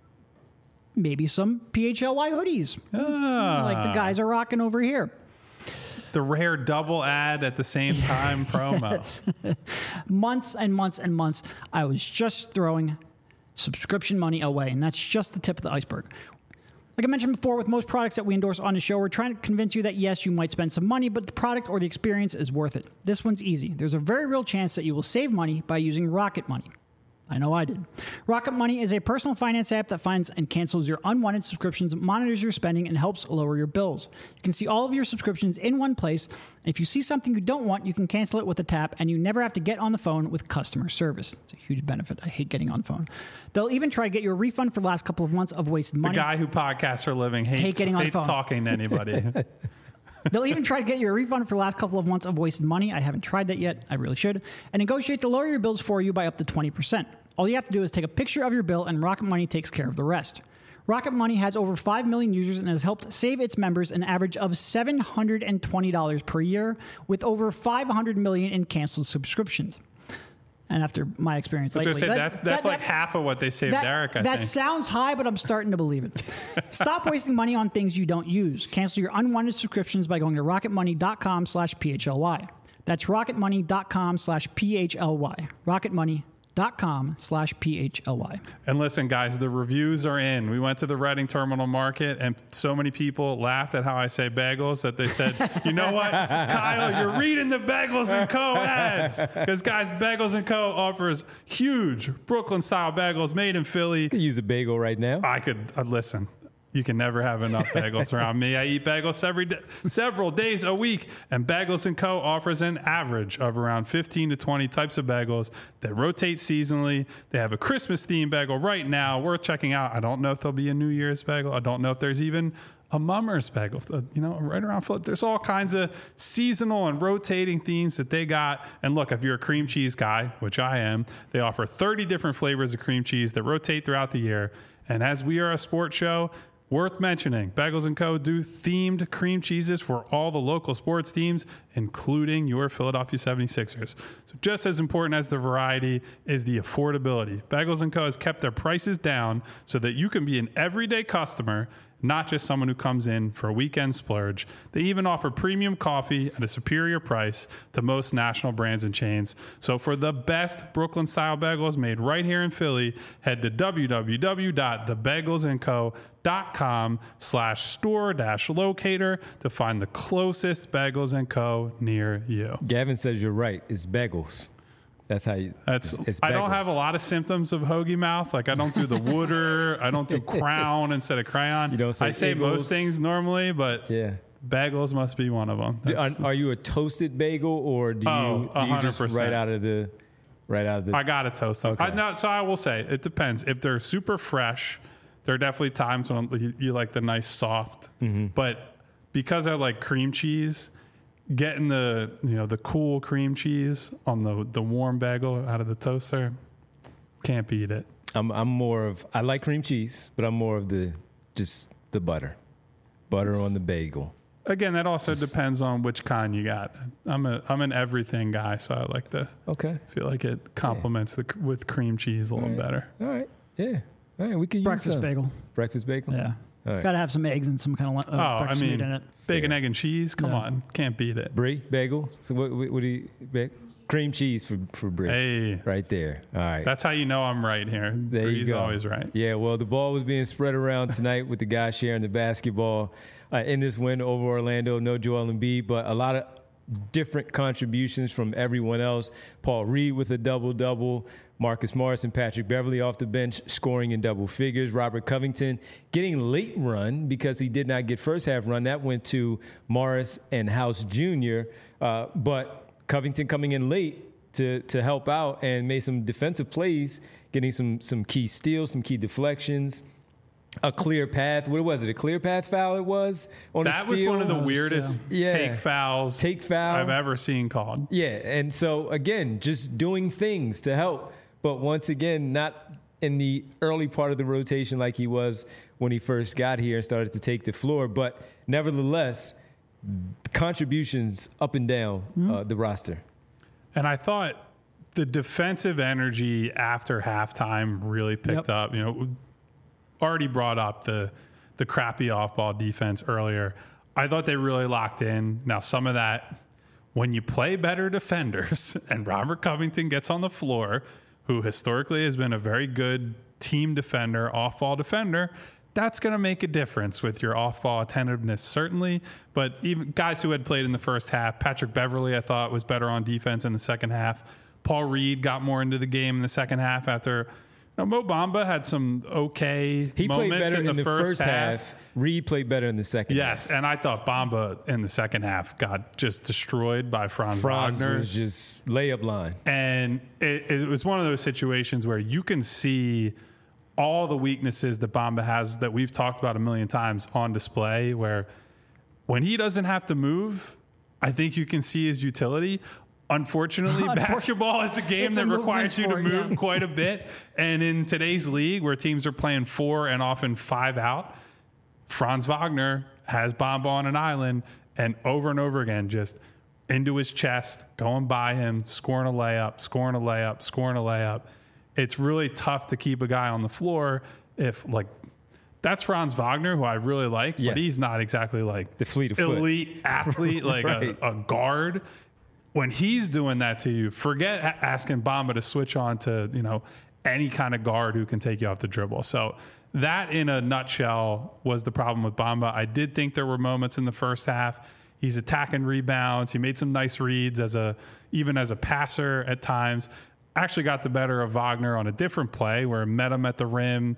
maybe some PHLY hoodies, like the guys are rocking over here. The rare double ad at the same time promo. Months and months and months, I was just throwing subscription money away, and that's just the tip of the iceberg. Like I mentioned before, with most products that we endorse on the show, we're trying to convince you that, yes, you might spend some money, but the product or the experience is worth it. This one's easy. There's a very real chance that you will save money by using Rocket Money. I know I did. Rocket Money is a personal finance app that finds and cancels your unwanted subscriptions, monitors your spending, and helps lower your bills. You can see all of your subscriptions in one place. If you see something you don't want, you can cancel it with a tap, and you never have to get on the phone with customer service. It's a huge benefit. I hate getting on the phone. They'll even try to get you a refund for the last couple of months of wasted money. The guy who podcasts for a living hates talking to anybody. They'll even try to get you a refund for the last couple of months of wasted money. I haven't tried that yet. I really should. And negotiate to lower your bills for you by up to 20%. All you have to do is take a picture of your bill, and Rocket Money takes care of the rest. Rocket Money has over 5 million users and has helped save its members an average of $720 per year, with over 500 million in canceled subscriptions. And after my experience, that's like half of what they saved Derek, I think. That sounds high, but I'm starting to believe it. Stop wasting money on things you don't use. Cancel your unwanted subscriptions by going to rocketmoney.com/PHLY. That's rocketmoney.com/PHLY. rocketmoney.com/PHLY. And listen, guys, the reviews are in. We went to the Reading Terminal Market, and so many people laughed at how I say bagels that they said, you know what, Kyle, you're reading the Bagels & Co. ads. Because, guys, Bagels & Co. offers huge Brooklyn-style bagels made in Philly. You could use a bagel right now. I could, listen. You can never have enough bagels around me. I eat bagels several days a week, and Bagels & Co. offers an average of around 15 to 20 types of bagels that rotate seasonally. They have a Christmas-themed bagel right now worth checking out. I don't know if there'll be a New Year's bagel. I don't know if there's even a Mummers bagel, right around. There's all kinds of seasonal and rotating themes that they got. And look, if you're a cream cheese guy, which I am, they offer 30 different flavors of cream cheese that rotate throughout the year. And as we are a sports show, worth mentioning, Bagels & Co. do themed cream cheeses for all the local sports teams, including your Philadelphia 76ers. So just as important as the variety is the affordability. Bagels & Co. has kept their prices down so that you can be an everyday customer, not just someone who comes in for a weekend splurge. They even offer premium coffee at a superior price to most national brands and chains. So for the best Brooklyn-style bagels made right here in Philly, head to www.thebagelsandco.com/store-locator to find the closest Bagels & Co. near you. Gavin says you're right. It's bagels. That's how you. It's I don't have a lot of symptoms of hoagie mouth. Like I don't do the wooder. I don't do crown instead of crayon. You don't say I say Eagles. most things normally, but Yeah. bagels must be one of them. Are you a toasted bagel or do you just 100%. right out of the? I gotta toast them. Okay. So I will say it depends. If they're super fresh, there are definitely times when you like the nice soft. Mm-hmm. But because I like cream cheese, getting the cool cream cheese on the warm bagel out of the toaster, Can't beat it. I'm more of, I like cream cheese, but I'm more of the butter on the bagel. Again, that also depends on which kind you got. I'm an everything guy, so I like to feel like it complements with cream cheese a little better. All right. Yeah. All right. We can use Breakfast bagel. Breakfast bagel? Yeah. All right. Got to have some eggs and some kind of breakfast meat in it. Bacon, egg, and cheese. Come on. Can't beat it. Brie, bagel. So what do you, cream cheese for Brie. Hey. Right there. All right. That's how you know I'm right here. There Brie's you go. Always right. Yeah, well, the ball was being spread around tonight with the guys sharing the basketball in this win over Orlando. No Joel Embiid, but a lot of different contributions from everyone else. Paul Reed with a double-double. Marcus Morris and Patrick Beverly off the bench scoring in double figures. Robert Covington getting late run because he did not get first half run. That went to Morris and House Jr., but Covington coming in late to help out and made some defensive plays, getting some key steals, some key deflections. A clear path. What was it? A clear path foul it was on a steal? That was one of the weirdest take fouls I've ever seen called. Yeah, and so, again, just doing things to help. But once again, not in the early part of the rotation like he was when he first got here and started to take the floor. But nevertheless, contributions up and down the roster. And I thought the defensive energy after halftime really picked up. You know, already brought up the crappy off-ball defense earlier. I thought they really locked in. Now, some of that, when you play better defenders and Robert Covington gets on the floor, who historically has been a very good team defender, off-ball defender, that's going to make a difference with your off-ball attentiveness, certainly. But even guys who had played in the first half, Patrick Beverly, I thought, was better on defense in the second half. Paul Reed got more into the game in the second half after Mo Bamba had some moments played better in the first half. Reed played better in the second half. Yes, and I thought Bamba in the second half got just destroyed by Franz Wagner. Was just layup line. And it was one of those situations where you can see all the weaknesses that Bamba has that we've talked about a million times on display, where when he doesn't have to move, I think you can see his utility. Unfortunately, basketball is a game that requires you to move quite a bit. And in today's league, where teams are playing 4 and often 5 out, Franz Wagner has Bamba on an island and over again, just into his chest, going by him, scoring a layup, scoring a layup, scoring a layup. It's really tough to keep a guy on the floor if, like, that's Franz Wagner, who I really like, but he's not exactly like the fleet of elite athlete, like a guard. When he's doing that to you, forget asking Bamba to switch on to, any kind of guard who can take you off the dribble. So that, in a nutshell, was the problem with Bamba. I did think there were moments in the first half. He's attacking rebounds. He made some nice reads even as a passer at times. Actually got the better of Wagner on a different play where he met him at the rim.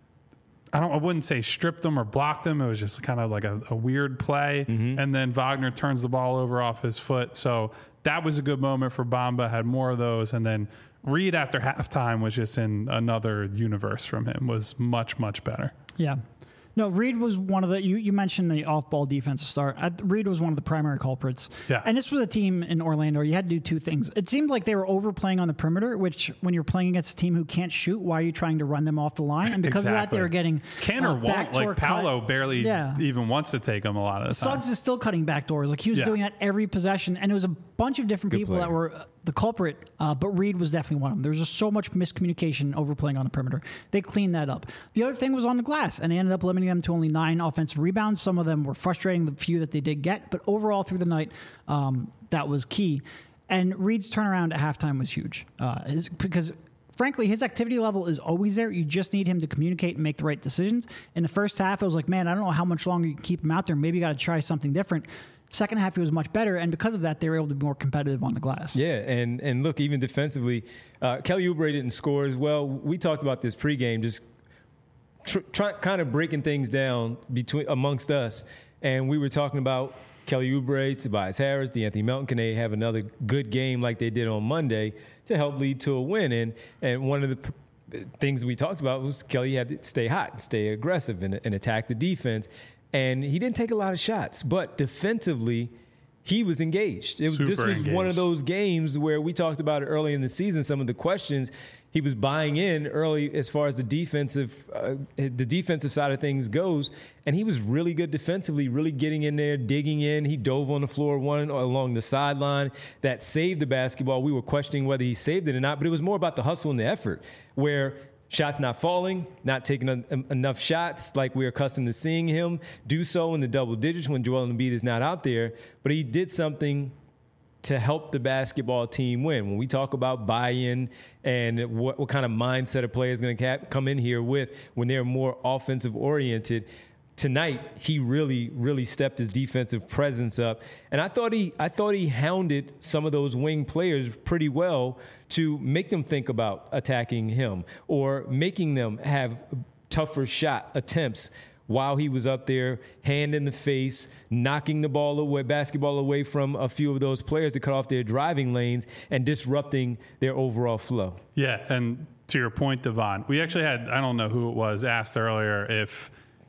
I wouldn't say stripped him or blocked him. It was just kind of like a weird play. Mm-hmm. And then Wagner turns the ball over off his foot. So that was a good moment for Bamba, had more of those. And then Reed after halftime was just in another universe from him, was much, much better. Yeah. No, Reed was one of the, you mentioned the off-ball defense to start. Reed was one of the primary culprits. Yeah. And this was a team in Orlando. You had to do two things. It seemed like they were overplaying on the perimeter, which when you're playing against a team who can't shoot, why are you trying to run them off the line? And because of that, they were getting Paolo barely even wants to take them a lot of the time. Suggs is still cutting backdoors. Like, he was doing that every possession. And it was a bunch of different people that were the culprit, but Reed was definitely one of them. There was just so much miscommunication overplaying on the perimeter. They cleaned that up. The other thing was on the glass, and they ended up limiting them to only 9 offensive rebounds. Some of them were frustrating, the few that they did get, but overall through the night, that was key. And Reed's turnaround at halftime was huge, because frankly, his activity level is always there. You just need him to communicate and make the right decisions. In the first half, I was like, man, I don't know how much longer you can keep him out there. Maybe you got to try something different. Second half, he was much better, and because of that, they were able to be more competitive on the glass. Yeah, and look, even defensively, Kelly Oubre didn't score as well. We talked about this pregame, just kind of breaking things down amongst us, and we were talking about Kelly Oubre, Tobias Harris, DeAnthony Melton. Can they have another good game like they did on Monday to help lead to a win? And one of the things we talked about was Kelly had to stay hot, stay aggressive, and attack the defense. And he didn't take a lot of shots, but defensively, he was engaged. This was engaged. one of those games where we talked about it early in the season, some of the questions. He was buying in early as far as the defensive side of things goes, and he was really good defensively, really getting in there, digging in. He dove on the floor, one along the sideline that saved the basketball. We were questioning whether he saved it or not, but it was more about the hustle and the effort, where shots not falling, not taking enough shots like we're accustomed to seeing him do so in the double digits when Joel Embiid is not out there. But he did something to help the basketball team win. When we talk about buy-in and what kind of mindset a player is going to come in here with when they're more offensive-oriented, tonight he really stepped his defensive presence up, and I thought he hounded some of those wing players pretty well to make them think about attacking him or making them have tougher shot attempts while he was up there, hand in the face, knocking the basketball away from a few of those players to cut off their driving lanes and disrupting their overall flow. Yeah, and to your point, Devon, we actually had, I don't know who it was, asked earlier if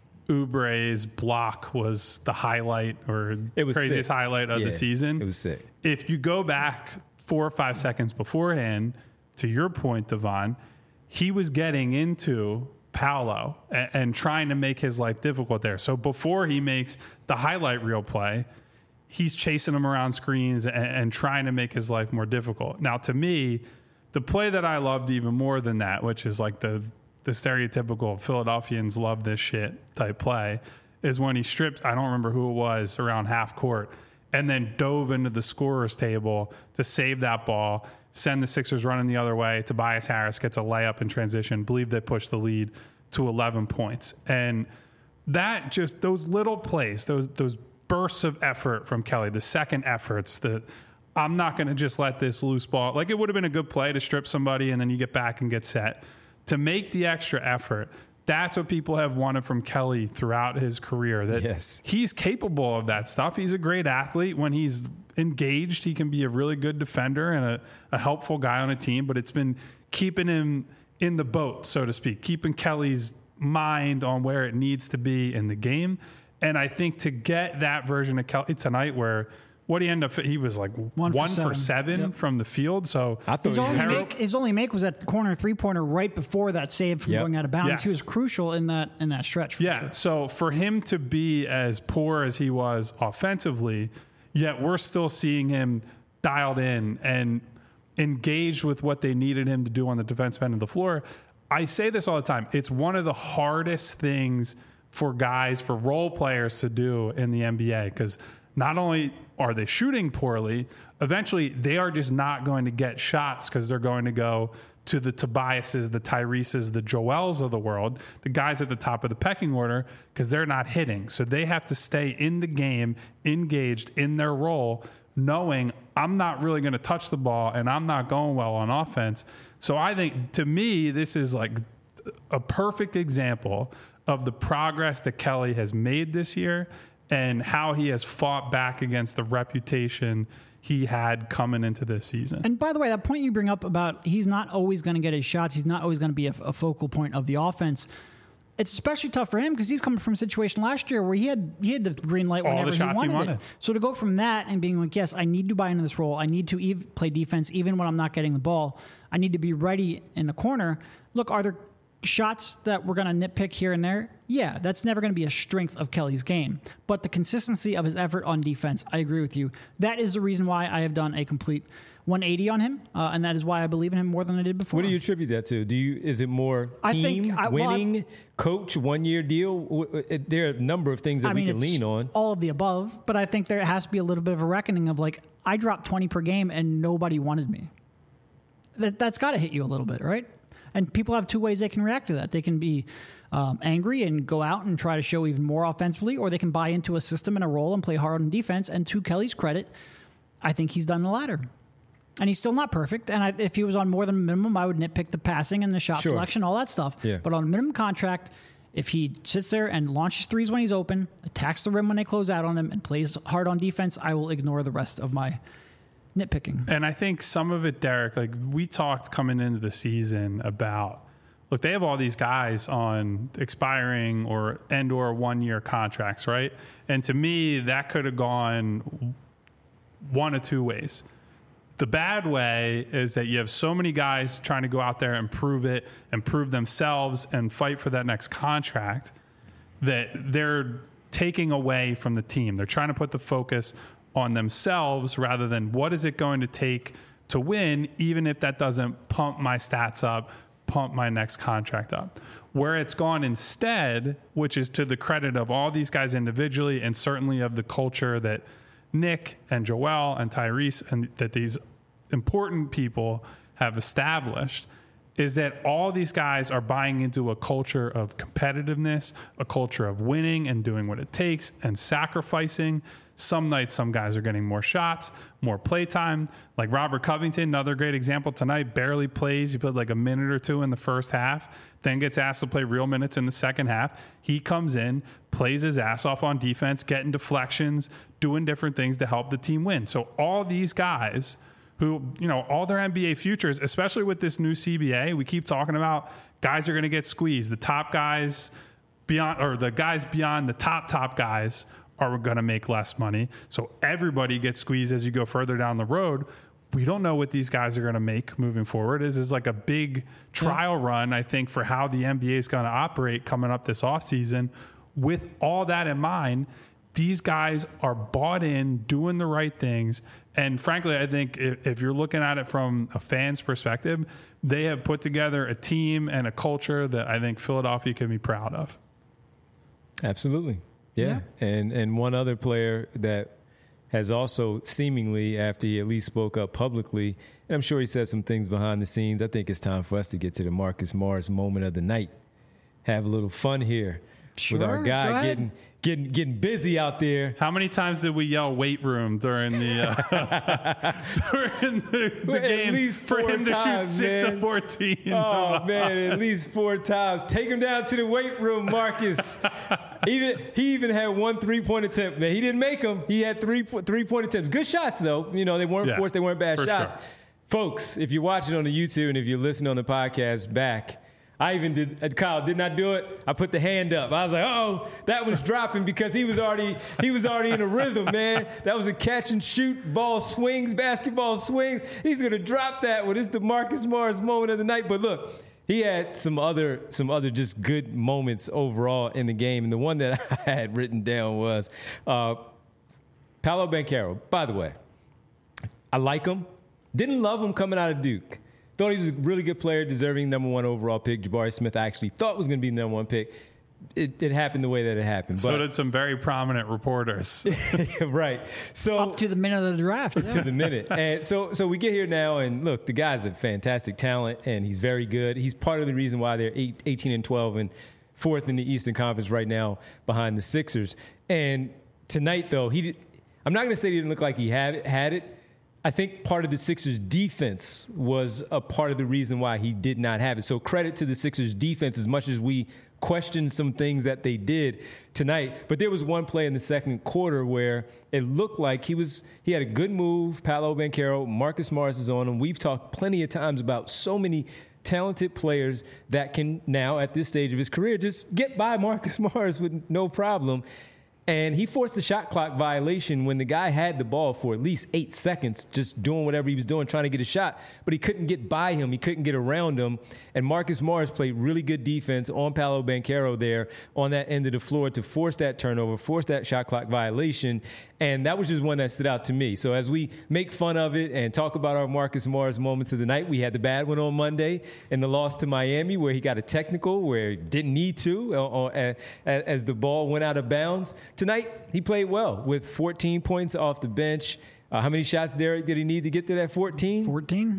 Oubre's block was the highlight or craziest highlight of the season. It was sick. If you go back 4 or 5 seconds beforehand, to your point, Devon, he was getting into Paolo and trying to make his life difficult there. So before he makes the highlight reel play, he's chasing him around screens and trying to make his life more difficult. Now, to me, the play that I loved even more than that, which is like the stereotypical Philadelphians love this shit type play, is when he stripped, I don't remember who it was, around half court, and then dove into the scorer's table to save that ball, send the Sixers running the other way. Tobias Harris gets a layup in transition. Believe they pushed the lead to 11 points. And that just, those little plays, those bursts of effort from Kelly, the second efforts, that I'm not going to just let this loose ball. Like, it would have been a good play to strip somebody and then you get back and get set. To make the extra effort, that's what people have wanted from Kelly throughout his career, that he's capable of that stuff. He's a great athlete. When he's engaged, he can be a really good defender and a helpful guy on a team, but it's been keeping him in the boat, so to speak, keeping Kelly's mind on where it needs to be in the game. And I think to get that version of Kelly tonight, where what he ended up, he was like 1 for 7 from the field. So I thought his only make was at the corner 3-pointer right before that save from going out of bounds. Yes. He was crucial in that stretch. Sure. So for him to be as poor as he was offensively, yet we're still seeing him dialed in and engaged with what they needed him to do on the defensive end of the floor. I say this all the time. It's one of the hardest things for guys, for role players to do in the NBA, because not only are they shooting poorly, eventually they are just not going to get shots because they're going to go to the Tobiases, the Tyreses, the Joels of the world, the guys at the top of the pecking order, because they're not hitting. So they have to stay in the game, engaged in their role, knowing I'm not really going to touch the ball and I'm not going well on offense. So I think, to me, this is like a perfect example of the progress that Kelly has made this year and how he has fought back against the reputation he had coming into this season. And by the way, that point you bring up about he's not always going to get his shots, he's not always going to be a focal point of the offense. It's especially tough for him because he's coming from a situation last year where he had the green light whenever he wanted it. So to go from that and being like, yes, I need to buy into this role. I need to play defense even when I'm not getting the ball. I need to be ready in the corner. Look, are there shots that we're going to nitpick here and there? Yeah, that's never going to be a strength of Kelly's game. But the consistency of his effort on defense, I agree with you. That is the reason why I have done a complete 180 on him, and that is why I believe in him more than I did before. What do you attribute that to? Is it more team, winning, coach, 1-year deal? There are a number of things that we can lean on. All of the above, but I think there has to be a little bit of a reckoning of like, I dropped 20 per game and nobody wanted me. That's got to hit you a little bit, right? And people have two ways they can react to that. They can be angry and go out and try to show even more offensively, or they can buy into a system and a role and play hard on defense. And to Kelly's credit, I think he's done the latter. And he's still not perfect. And if he was on more than minimum, I would nitpick the passing and the shot selection, all that stuff. Yeah. But on a minimum contract, if he sits there and launches threes when he's open, attacks the rim when they close out on him, and plays hard on defense, I will ignore the rest of my nitpicking. And I think some of it, Derek, like we talked coming into the season about, look, they have all these guys on expiring or 1-year contracts, right? And to me, that could have gone one of two ways. The bad way is that you have so many guys trying to go out there and prove it and prove themselves and fight for that next contract that they're taking away from the team. They're trying to put the focus on themselves rather than what is it going to take to win, even if that doesn't pump my stats up, pump my next contract up. Where it's gone instead, which is to the credit of all these guys individually and certainly of the culture that Nick and Joel and Tyrese and that these important people have established, is that all these guys are buying into a culture of competitiveness, a culture of winning and doing what it takes and sacrificing. Some nights, some guys are getting more shots, more play time. Like Robert Covington, another great example tonight, barely plays. He played like a minute or two in the first half, then gets asked to play real minutes in the second half. He comes in, plays his ass off on defense, getting deflections, doing different things to help the team win. So all these guys who, all their NBA futures, especially with this new CBA, we keep talking about guys are going to get squeezed. The top guys beyond, or the guys beyond the top guys are going to make less money. So everybody gets squeezed as you go further down the road. We don't know what these guys are going to make moving forward. This is like a big trial run, I think, for how the NBA is going to operate coming up this offseason. With all that in mind, these guys are bought in, doing the right things. And frankly, I think if you're looking at it from a fan's perspective, they have put together a team and a culture that I think Philadelphia can be proud of. Absolutely. Yeah. And one other player that has also seemingly, after he at least spoke up publicly, and I'm sure he said some things behind the scenes, I think it's time for us to get to the Marcus Morris moment of the night. Have a little fun here with our guy getting busy out there. How many times did we yell weight room during the game? At least for him to shoot 6 of 14? Oh man, at least 4 times. Take him down to the weight room, Marcus. He even had 1 3-point attempt. Man, he didn't make them. He had 3-point attempts. Good shots though. They weren't forced. They weren't bad shots. Sure. Folks, if you're watching on the YouTube and if you're listening on the podcast back, Kyle did not do it. I put the hand up. I was like, oh, that was dropping because he was already in a rhythm, man. That was a catch and shoot, ball swings, basketball swings. He's gonna drop that one. It's the Marcus Morris moment of the night. But look, he had some other just good moments overall in the game. And the one that I had written down was Paolo Banchero. By the way, I like him. Didn't love him coming out of Duke. Thought he was a really good player, deserving number 1 overall pick. Jabari Smith I actually thought was going to be the number 1 pick. It happened the way that it happened. So did some very prominent reporters. Right. So up to the minute of the draft. To the minute. And so we get here now, and look, the guy's a fantastic talent, and he's very good. He's part of the reason why they're 18-12 and 4th in the Eastern Conference right now behind the Sixers. And tonight, though, I'm not going to say he didn't look like he had it. I think part of the Sixers' defense was a part of the reason why he did not have it. So credit to the Sixers' defense as much as we questioned some things that they did tonight. But there was one play in the second quarter where it looked like he had a good move, Paolo Banchero, Marcus Morris is on him. We've talked plenty of times about so many talented players that can now, at this stage of his career, just get by Marcus Morris with no problem. And he forced a shot clock violation when the guy had the ball for at least 8 seconds, just doing whatever he was doing, trying to get a shot. But he couldn't get by him. He couldn't get around him. And Marcus Morris played really good defense on Paolo Banchero there on that end of the floor to force that turnover, force that shot clock violation. And that was just one that stood out to me. So as we make fun of it and talk about our Marcus Morris moments of the night, we had the bad one on Monday in the loss to Miami where he got a technical where he didn't need to as the ball went out of bounds. Tonight, he played well with 14 points off the bench. How many shots, Derek, did he need to get to that 14?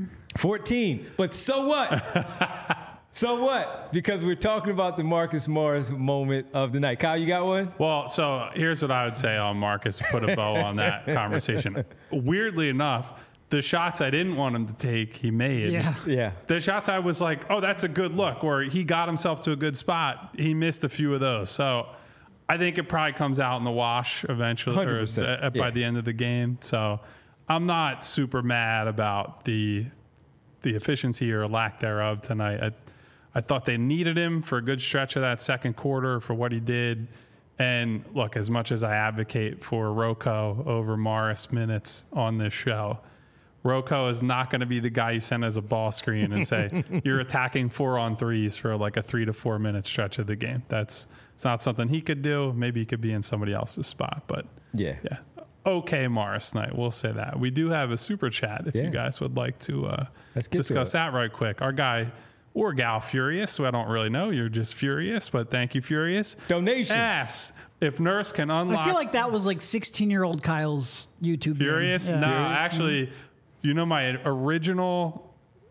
14. But so what? So what? Because we're talking about the Marcus Morris moment of the night. Kyle, you got one? Well, so here's what I would say on Marcus, put a bow on that conversation. Weirdly enough, the shots I didn't want him to take, he made. Yeah. The shots I was like, oh, that's a good look, or he got himself to a good spot, he missed a few of those. So I think it probably comes out in the wash eventually or by the end of the game. So I'm not super mad about the efficiency or lack thereof tonight. I thought they needed him for a good stretch of that second quarter for what he did. And look, as much as I advocate for Rocco over Morris minutes on this show, Rocco is not going to be the guy you send as a ball screen and say, you're attacking 4-on-3s for like a 3 to 4 minute stretch of the game. It's not something he could do. Maybe he could be in somebody else's spot, but yeah. Okay, Morris night. We'll say that. We do have a super chat if you guys would like to discuss that right quick. Our guy or gal Furious, who I don't really know. You're just Furious, but thank you, Furious. Donations. Asks if Nurse can unlock. I feel like that was like 16-year-old Kyle's YouTube. Furious? Yeah. No, Furious? actually, you know my original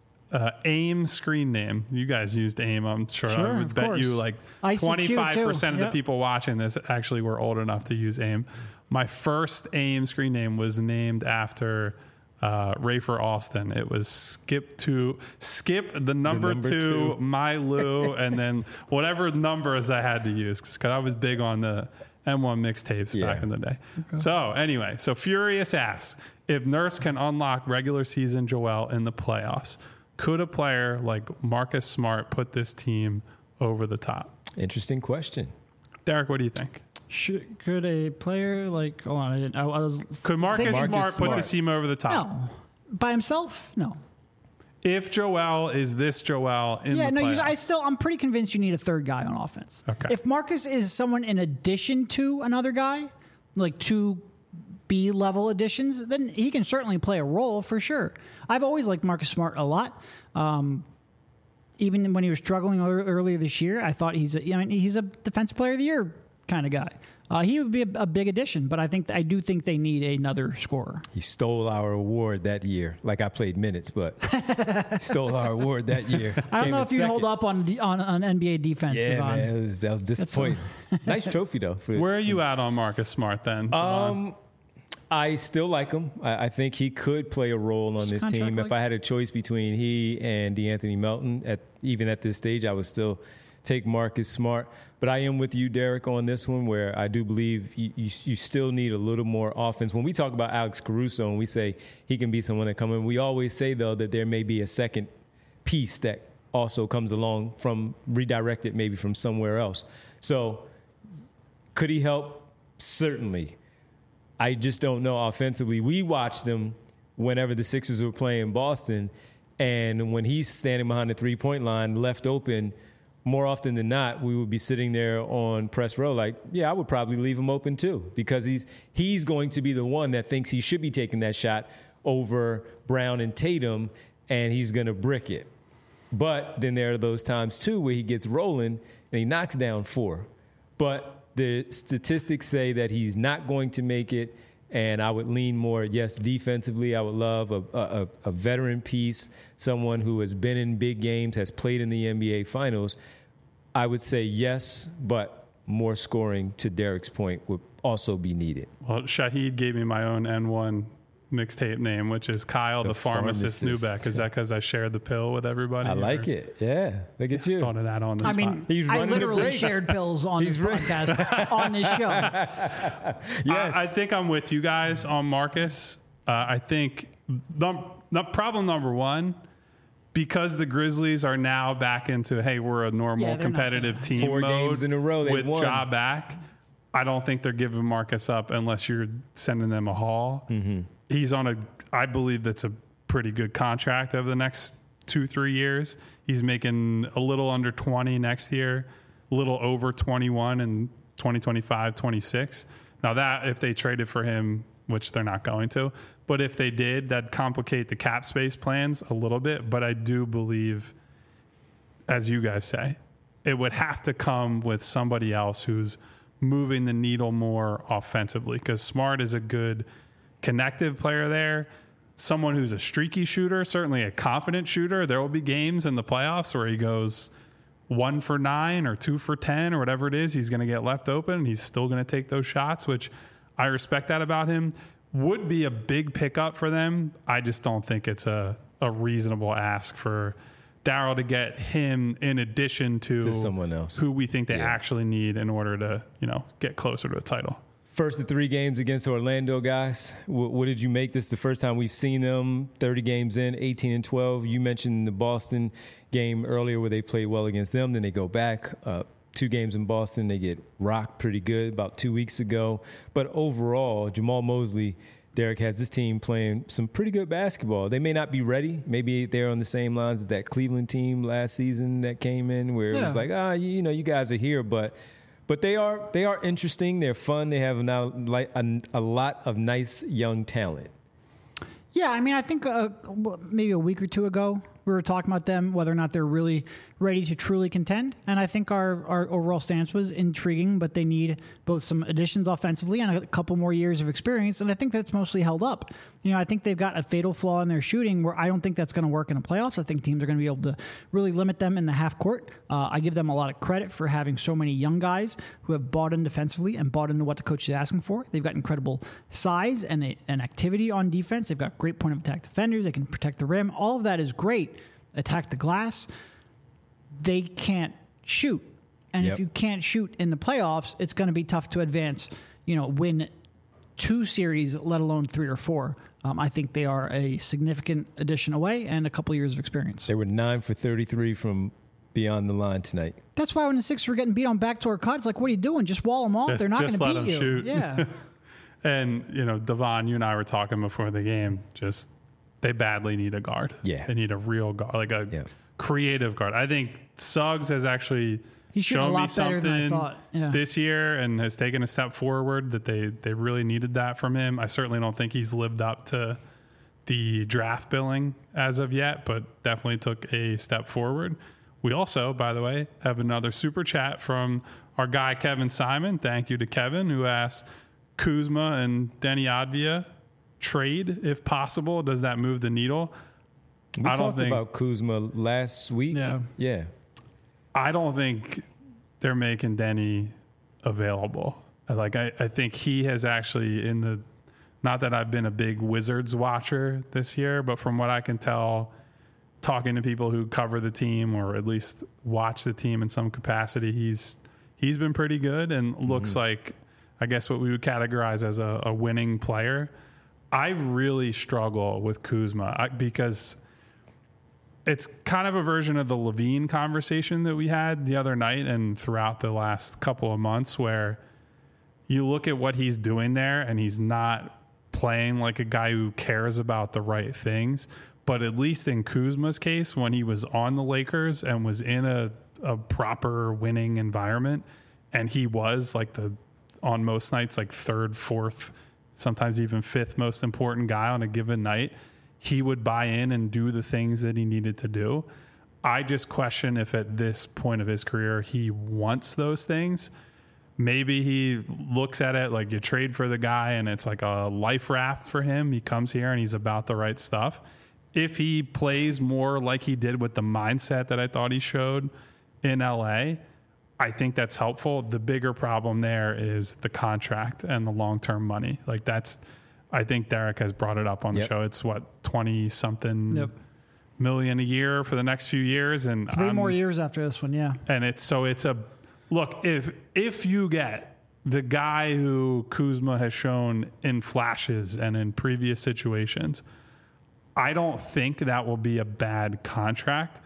AIM screen name. You guys used AIM, I'm sure. Sure, I would of bet course. you like ICQ 25% of too. the people watching this actually were old enough to use AIM. My first AIM screen name was named after Rafer Alston. It was Skip the number two, My Lou, and then whatever numbers I had to use because I was big on the M1 mixtapes back in the day. Okay. So anyway, Furious asks, if Nurse can unlock regular season Joel in the playoffs, could a player like Marcus Smart put this team over the top? Interesting question. Derek, what do you think? Could a player like? Hold on, I was. Could Marcus Smart put this team over the top? No, by himself, no. If Joel is this Joel in the playoffs. I'm pretty convinced you need a third guy on offense. Okay. If Marcus is someone in addition to another guy, like two B level additions, then he can certainly play a role for sure. I've always liked Marcus Smart a lot. Even when he was struggling earlier this year, I thought he's a defensive player of the year kind of guy. He would be a big addition, but I do think they need another scorer. He stole our award that year. Like I played minutes, but stole our award that year. I don't know if you hold up on NBA defense. Yeah, Devon. man, that was disappointing. Nice trophy though. Where are you at on Marcus Smart then? I still like him. I think he could play a role on this team. If I had a choice between he and DeAnthony Melton, even at this stage, I would still take Marcus Smart. But I am with you, Derek, on this one, where I do believe you still need a little more offense. When we talk about Alex Caruso and we say he can be someone that come in, we always say, though, that there may be a second piece that also comes along from redirected maybe from somewhere else. So could he help? Certainly. I just don't know offensively. We watched them whenever the Sixers were playing Boston, and when he's standing behind the three-point line, left open, more often than not, we would be sitting there on press row like, yeah, I would probably leave him open too, because he's going to be the one that thinks he should be taking that shot over Brown and Tatum, and he's going to brick it. But then there are those times too where he gets rolling and he knocks down 4. But the statistics say that he's not going to make it, and I would lean more, yes, defensively. I would love a veteran piece, someone who has been in big games, has played in the NBA Finals. I would say yes, but more scoring, to Derek's point, would also be needed. Well, Shahid gave me my own N1 mixtape name, which is Kyle the Pharmacist Newbeck. Is that because I shared the pill with everybody? I like it. Yeah. Look at you. Thought of that on the spot. I literally shared pills on this podcast on this show. Yes. I think I'm with you guys on Marcus. I think problem number one, because the Grizzlies are now back into, hey, we're a normal competitive team 4 mode games in a row with won. Ja back. I don't think they're giving Marcus up unless you're sending them a haul. Mm-hmm. He's on I believe that's a pretty good contract over the next 2-3 years. He's making a little under 20 next year, a little over 21 in 2025, 26. Now that, if they traded for him, which they're not going to, but if they did, that'd complicate the cap space plans a little bit. But I do believe, as you guys say, it would have to come with somebody else who's moving the needle more offensively, because Smart is a good connective player there, someone who's a streaky shooter, certainly a confident shooter. There will be games in the playoffs where he goes 1 for 9 or 2 for 10 or whatever it is. He's going to get left open and he's still going to take those shots, which I respect that about him. Would be a big pickup for them. I just don't think it's a reasonable ask for Daryl to get him in addition to someone else who we think they actually need in order to, get closer to a title. First of 3 games against Orlando, guys. What did you make? This the first time we've seen them 30 games in, 18-12. You mentioned the Boston game earlier where they played well against them. Then they go back. 2 games in Boston. They get rocked pretty good about 2 weeks ago. But overall, Jamal Mosley, Derek, has this team playing some pretty good basketball. They may not be ready. Maybe they're on the same lines as that Cleveland team last season that came in where it was like, you guys are here. But they are interesting. They're fun. They have now a lot of nice young talent. Yeah, I mean, I think maybe a week or two ago, we were talking about them, whether or not they're really ready to truly contend. And I think our overall stance was intriguing, but they need both some additions offensively and a couple more years of experience. And I think that's mostly held up. I think they've got a fatal flaw in their shooting where I don't think that's going to work in the playoffs. I think teams are going to be able to really limit them in the half court. I give them a lot of credit for having so many young guys who have bought in defensively and bought into what the coach is asking for. They've got incredible size and activity on defense. They've got great point of attack defenders. They can protect the rim. All of that is great. Attack the glass. They can't shoot. And if you can't shoot in the playoffs, it's going to be tough to advance, win 2 series, let alone 3 or 4. I think they are a significant addition away and a couple years of experience. They were 9 for 33 from beyond the line tonight. That's why when the Sixers were getting beat on backdoor cuts, like, what are you doing? Just wall them off. They're not going to beat them you. Shoot. Yeah. And, Devon, you and I were talking before the game, they badly need a guard. Yeah. They need a real guard, like a creative guard. I think Suggs has actually shown me something this year and has taken a step forward that they really needed that from him. I certainly don't think he's lived up to the draft billing as of yet, but definitely took a step forward. We also, by the way, have another super chat from our guy, Kevin Simon. Thank you to Kevin, who asked, Kuzma and Deni Avdija trade if possible. Does that move the needle? We talked about Kuzma last week. Yeah. I don't think they're making Deni available. I think he has actually not that I've been a big Wizards watcher this year, but from what I can tell, talking to people who cover the team or at least watch the team in some capacity, he's been pretty good and looks like, I guess, what we would categorize as a winning player. I really struggle with Kuzma because it's kind of a version of the Levine conversation that we had the other night and throughout the last couple of months, where you look at what he's doing there and he's not playing like a guy who cares about the right things. But at least in Kuzma's case, when he was on the Lakers and was in a proper winning environment, and he was on most nights, 3rd, 4th, sometimes even 5th most important guy on a given night, he would buy in and do the things that he needed to do. I just question if at this point of his career he wants those things. Maybe he looks at it like you trade for the guy and it's like a life raft for him. He comes here and he's about the right stuff. If he plays more like he did with the mindset that I thought he showed in LA, I think that's helpful. The bigger problem there is the contract and the long-term money. I think Derek has brought it up on the show. It's 20-something million a year for the next few years, and 3 more years after this one. Yeah, and it's a look. If you get the guy who Kuzma has shown in flashes and in previous situations, I don't think that will be a bad contract,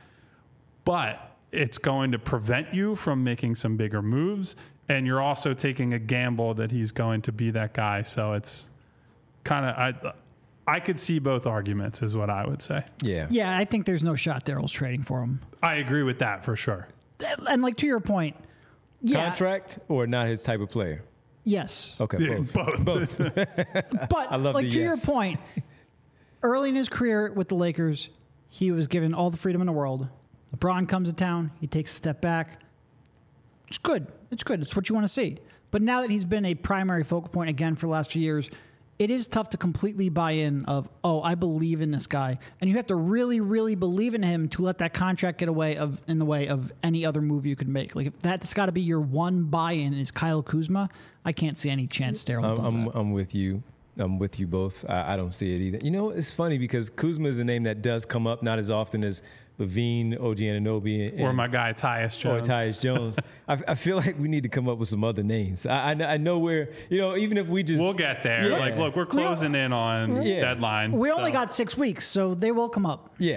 but it's going to prevent you from making some bigger moves, and you're also taking a gamble that he's going to be that guy. So it's kind of I could see both arguments, is what I would say. Yeah, I think there's no shot Daryl's trading for him. I agree with that for sure. And to your point, contract or not his type of player? Yes. Okay, both. But I love to your point, early in his career with the Lakers, he was given all the freedom in the world. LeBron comes to town. He takes a step back. It's good. It's what you want to see. But now that he's been a primary focal point again for the last few years, it is tough to completely buy in of, I believe in this guy. And you have to really, really believe in him to let that contract get in the way of any other move you could make. If that's got to be your one buy-in is Kyle Kuzma, I can't see any chance Daryl does that. I'm with you. I'm with you both. I don't see it either. It's funny because Kuzma is a name that does come up not as often as Levine, OG Anunoby, or my guy Tyus Jones. I feel like we need to come up with some other names. I know where, even if we just... We'll get there. Look, we're closing in on deadline. We only got 6 weeks, so they will come up. Yeah.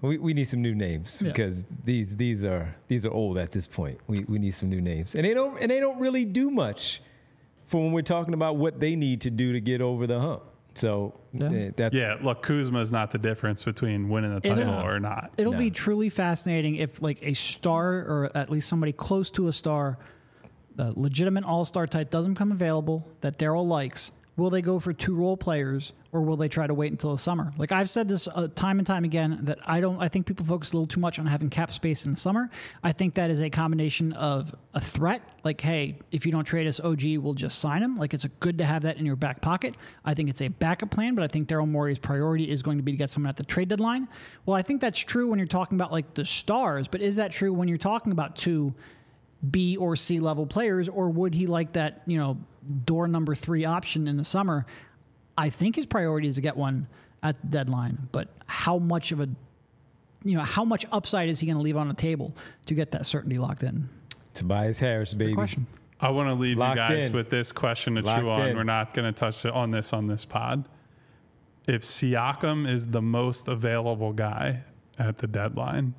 We need some new names because these are old at this point. We need some new names, and they don't really do much for when we're talking about what they need to do to get over the hump. So look, Kuzma is not the difference between winning a title or not. It'll be truly fascinating if like a star or at least somebody close to a star, the legitimate all-star type doesn't become available that Daryl likes. Will they go for 2 role players or will they try to wait until the summer? Like I've said this time and time again that I think people focus a little too much on having cap space in the summer. I think that is a combination of a threat. Like, hey, if you don't trade us OG, we'll just sign him. Like it's good to have that in your back pocket. I think it's a backup plan, but I think Daryl Morey's priority is going to be to get someone at the trade deadline. Well, I think that's true when you're talking about like the stars, but is that true when you're talking about 2 B or C level players, or would he like that, door number 3 option in the summer? I think his priority is to get one at the deadline, but how much upside is he going to leave on the table to get that certainty locked in? Tobias Harris, baby. Good question. I want to leave Locked you guys in. with this question to Locked chew on. in. We're not going to touch on this pod. If Siakam is the most available guy at the deadline,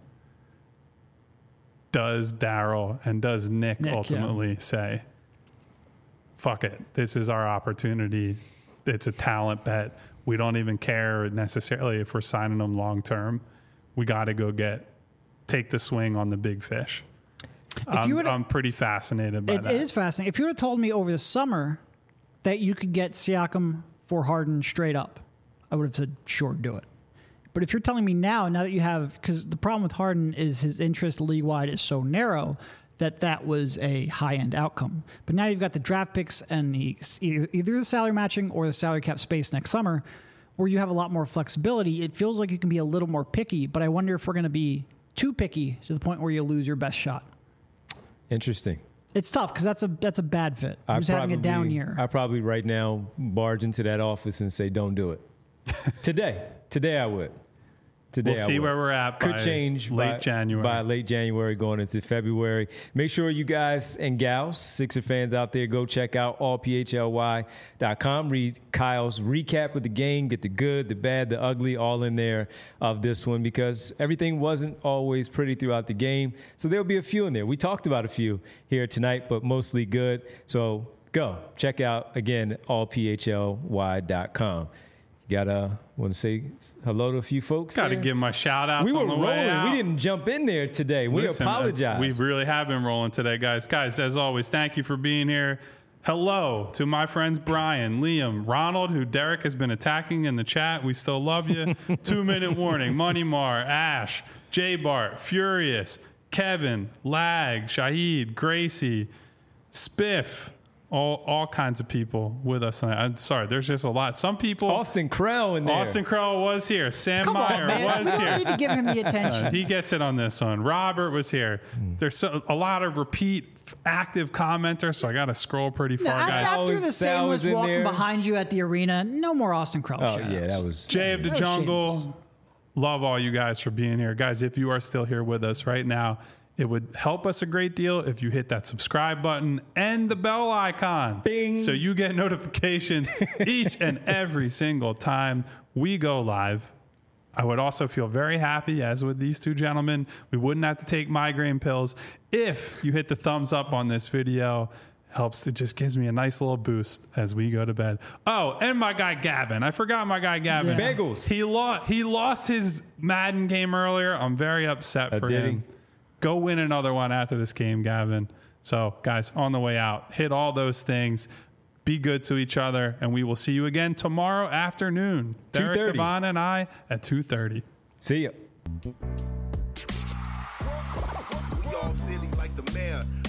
does Daryl and does Nick ultimately say, fuck it, this is our opportunity. It's a talent bet. We don't even care necessarily if we're signing them long term. We got to go take the swing on the big fish. I'm pretty fascinated by that. It is fascinating. If you would have told me over the summer that you could get Siakam for Harden straight up, I would have said, sure, do it. But if you're telling me now that you have, because the problem with Harden is his interest league-wide is so narrow that was a high-end outcome. But now you've got the draft picks and either the salary matching or the salary cap space next summer where you have a lot more flexibility. It feels like you can be a little more picky, but I wonder if we're going to be too picky to the point where you lose your best shot. Interesting. It's tough because that's a bad fit. Who's having a down year? I probably right now barge into that office and say, don't do it. Today I would. We'll see where we're at. Could change January. By late January going into February. Make sure you guys and gals, Sixer fans out there, go check out allphly.com. Read Kyle's recap of the game. Get the good, the bad, the ugly, all in there of this one because everything wasn't always pretty throughout the game. So there'll be a few in there. We talked about a few here tonight, but mostly good. So go check out, again, allphly.com. Gotta want to say hello to a few folks. Got to give my shout outs. We were on the rolling. Way out. We didn't jump in there today. We apologize. We really have been rolling today, guys. Guys, as always, thank you for being here. Hello to my friends Brian, Liam, Ronald, who Derek has been attacking in the chat. We still love you. 2 minute warning. Money Mar, Ash, J Bart, Furious, Kevin, Lag, Shahid, Gracie, Spiff. All kinds of people with us tonight. I'm sorry, there's just a lot. Some people. Austin Krell in there. Austin Krell was here. Sam Meyer was here. We don't need to give him the attention. He gets it on this one. Robert was here. There's a lot of repeat active commenters, so I got to scroll pretty far, guys. After the Sam was walking behind you at the arena, no more Austin Krell. Oh, yeah, that was. Jay of the Jungle. Love all you guys for being here. Guys, if you are still here with us right now, it would help us a great deal if you hit that subscribe button and the bell icon. Bing. So you get notifications each and every single time we go live. I would also feel very happy, as with these two gentlemen, we wouldn't have to take migraine pills if you hit the thumbs up on this video. It just gives me a nice little boost as we go to bed. Oh, and my guy Gavin. I forgot my guy Gavin. Yeah. Bagels. He lost his Madden game earlier. I'm very upset for him. Go win another one after this game, Gavin. So, guys, on the way out, hit all those things. Be good to each other, and we will see you again tomorrow afternoon. Derek Devon and I at 2:30. See ya. We all silly like the mayor.